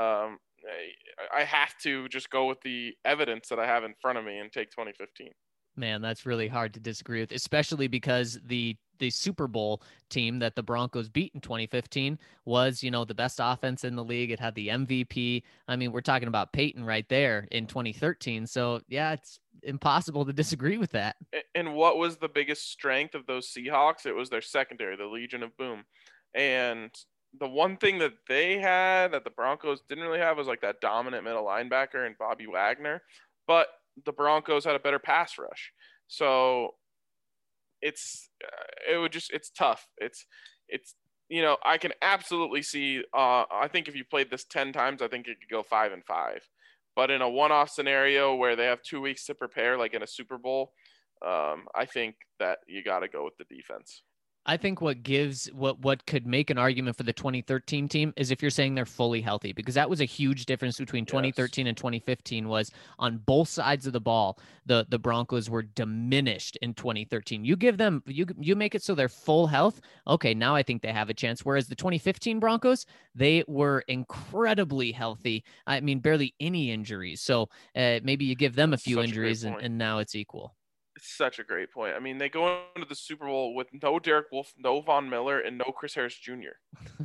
I have to just go with the evidence that I have in front of me and take 2015. Man, that's really hard to disagree with, especially because the Super Bowl team that the Broncos beat in 2015 was, you know, the best offense in the league. It had the MVP. I mean, we're talking about Peyton right there in 2013. So, yeah, it's impossible to disagree with that. And what was the biggest strength of those Seahawks? It was their secondary, the Legion of Boom. And the one thing that they had that the Broncos didn't really have was like that dominant middle linebacker and Bobby Wagner. But the Broncos had a better pass rush. So it's tough. It's you know, I can absolutely see I think if you played this 10 times, I think it could go 5-5. But in a one-off scenario where they have 2 weeks to prepare, like in a Super Bowl, I think that you got to go with the defense. I think what could make an argument for the 2013 team is if you're saying they're fully healthy, because that was a huge difference between 2013 and 2015 was on both sides of the ball. The Broncos were diminished in 2013. You give them, you make it so they're full health. Okay. Now I think they have a chance. Whereas the 2015 Broncos, they were incredibly healthy. I mean, barely any injuries. So maybe you give them a few injuries and now it's equal. It's such a great point. I mean, they go into the Super Bowl with no Derek Wolfe, no Von Miller, and no Chris Harris Jr.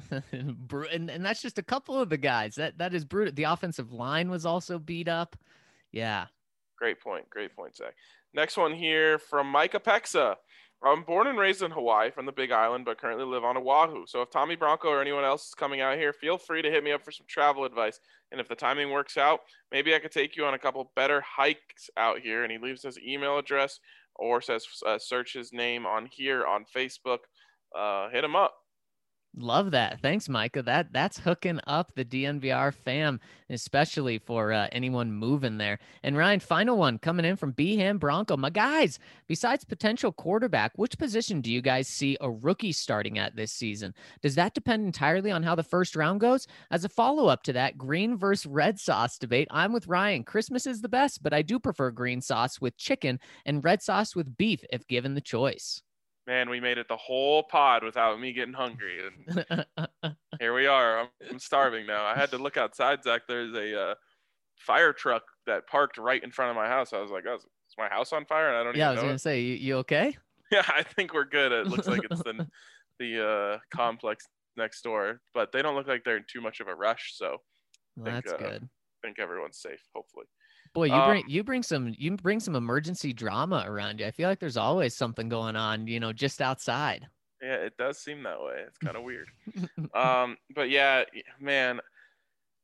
and that's just a couple of the guys. That is brutal. The offensive line was also beat up. Yeah. Great point. Great point, Zach. Next one here from Micah Pexa. I'm born and raised in Hawaii from the Big Island, but currently live on Oahu. So if Tommy Bronco or anyone else is coming out here, feel free to hit me up for some travel advice. And if the timing works out, maybe I could take you on a couple better hikes out here. And he leaves his email address or says search his name on here on Facebook. Hit him up. Love that. Thanks, Micah. That's hooking up the DNVR fam, especially for anyone moving there. And Ryan, final one coming in from Beham Bronco. My guys, besides potential quarterback, which position do you guys see a rookie starting at this season? Does that depend entirely on how the first round goes? As a follow-up to that green versus red sauce debate, I'm with Ryan. Christmas is the best, but I do prefer green sauce with chicken and red sauce with beef if given the choice. Man, we made it the whole pod without me getting hungry. And here we are. I'm starving now. I had to look outside, Zach. There's a fire truck that parked right in front of my house. I was like, oh, is my house on fire? And I don't even know. Yeah, I was going to say, you okay? Yeah, I think we're good. It looks like it's the complex next door. But they don't look like they're in too much of a rush. So that's good. I think everyone's safe, hopefully. Boy, you bring some emergency drama around you. I feel like there's always something going on, you know, just outside. Yeah, it does seem that way. It's kind of weird. But yeah, man,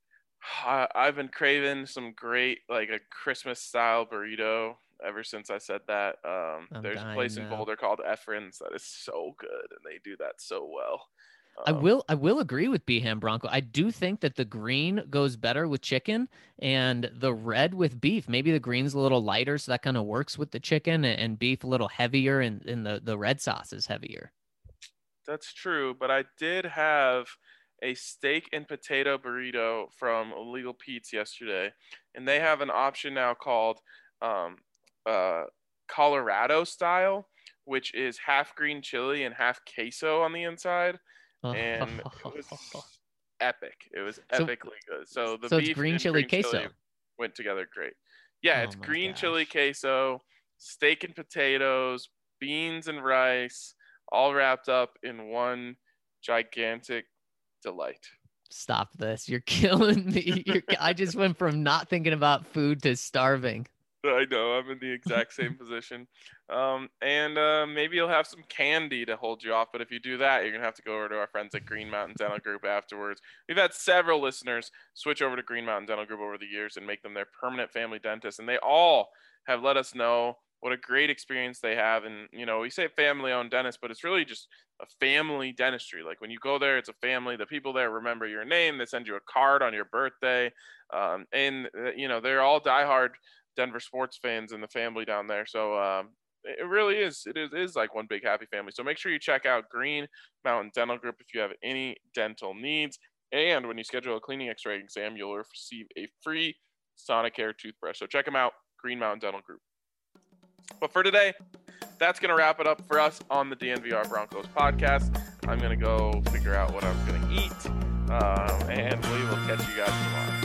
I've been craving some great, like a Christmas style burrito ever since I said that. There's a place in Boulder called Efren's that is so good, and they do that so well. I will agree with Beham Bronco. I do think that the green goes better with chicken and the red with beef. Maybe the green's a little lighter, so that kind of works with the chicken, and beef a little heavier, and the red sauce is heavier. That's true, but I did have a steak and potato burrito from Illegal Pete's yesterday, and they have an option now called um, Colorado style, which is half green chili and half queso on the inside, and it was epic. It was epically good. So the beef green and chili green queso chili went together great. Yeah, Oh it's my green gosh. chili queso, steak and potatoes, beans and rice, all wrapped up in one gigantic delight. Stop this. You're killing me. I just went from not thinking about food to starving. I know, I'm in the exact same position. And maybe you'll have some candy to hold you off. But if you do that, you're going to have to go over to our friends at Green Mountain Dental Group afterwards. We've had several listeners switch over to Green Mountain Dental Group over the years and make them their permanent family dentist. And they all have let us know what a great experience they have. And, you know, we say family-owned dentist, but it's really just a family dentistry. Like when you go there, it's a family. The people there remember your name. They send you a card on your birthday. You know, they're all diehard Denver sports fans in the family down there. So it really is. It is like one big happy family. So make sure you check out Green Mountain Dental Group if you have any dental needs. And when you schedule a cleaning x-ray exam, you'll receive a free Sonicare toothbrush. So check them out, Green Mountain Dental Group. But for today, that's going to wrap it up for us on the DNVR Broncos podcast. I'm going to go figure out what I'm going to eat, and we will catch you guys tomorrow.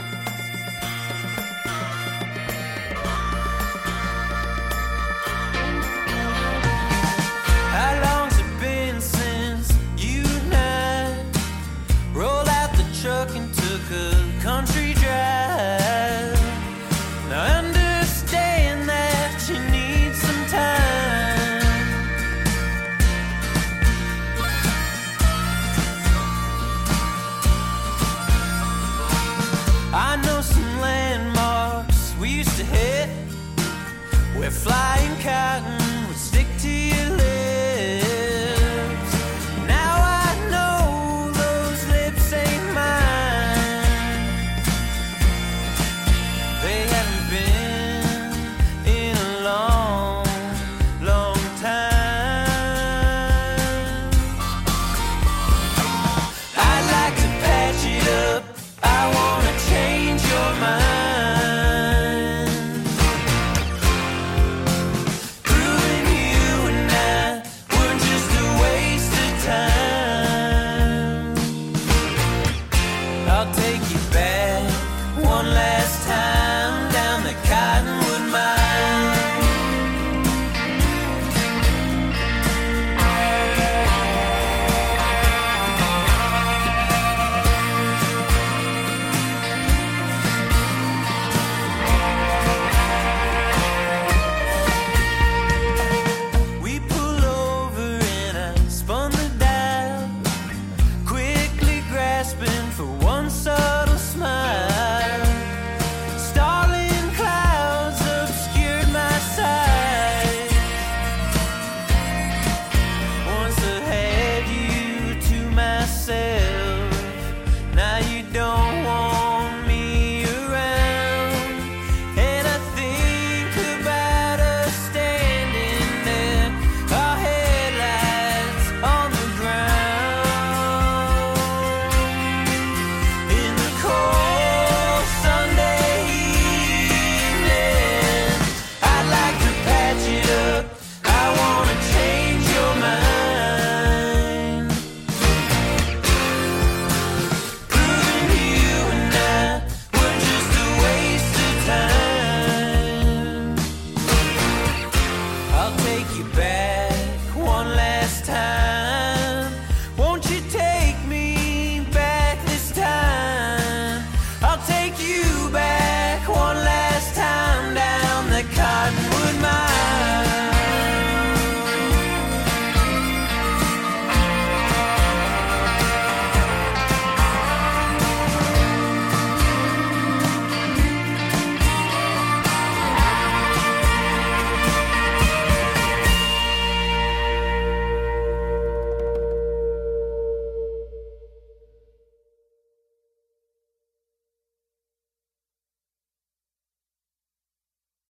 How long's it been since you and I rolled out the truck and took a country drive? Now I understand that you need some time. I know some landmarks we used to hit where flying cotton would stick to your lips. Now I know those lips ain't mine. They haven't been in a long, long time. I'd like to patch it up. I wanna change your mind. Proving you and I were just a waste of time. I'll take you back one last time down the Cottonwood Mine. We pull over and I spun the dial, quickly grasping for one subtle smile. Starling clouds obscured my sight. Once I had you to myself, now you don't want me around. And I think about us standing there, our headlights on the ground. In the cold Sunday evening, I'd like to patch it up. I wanna change your mind. Proving you and I were just a waste of time. I'll take you back one last time.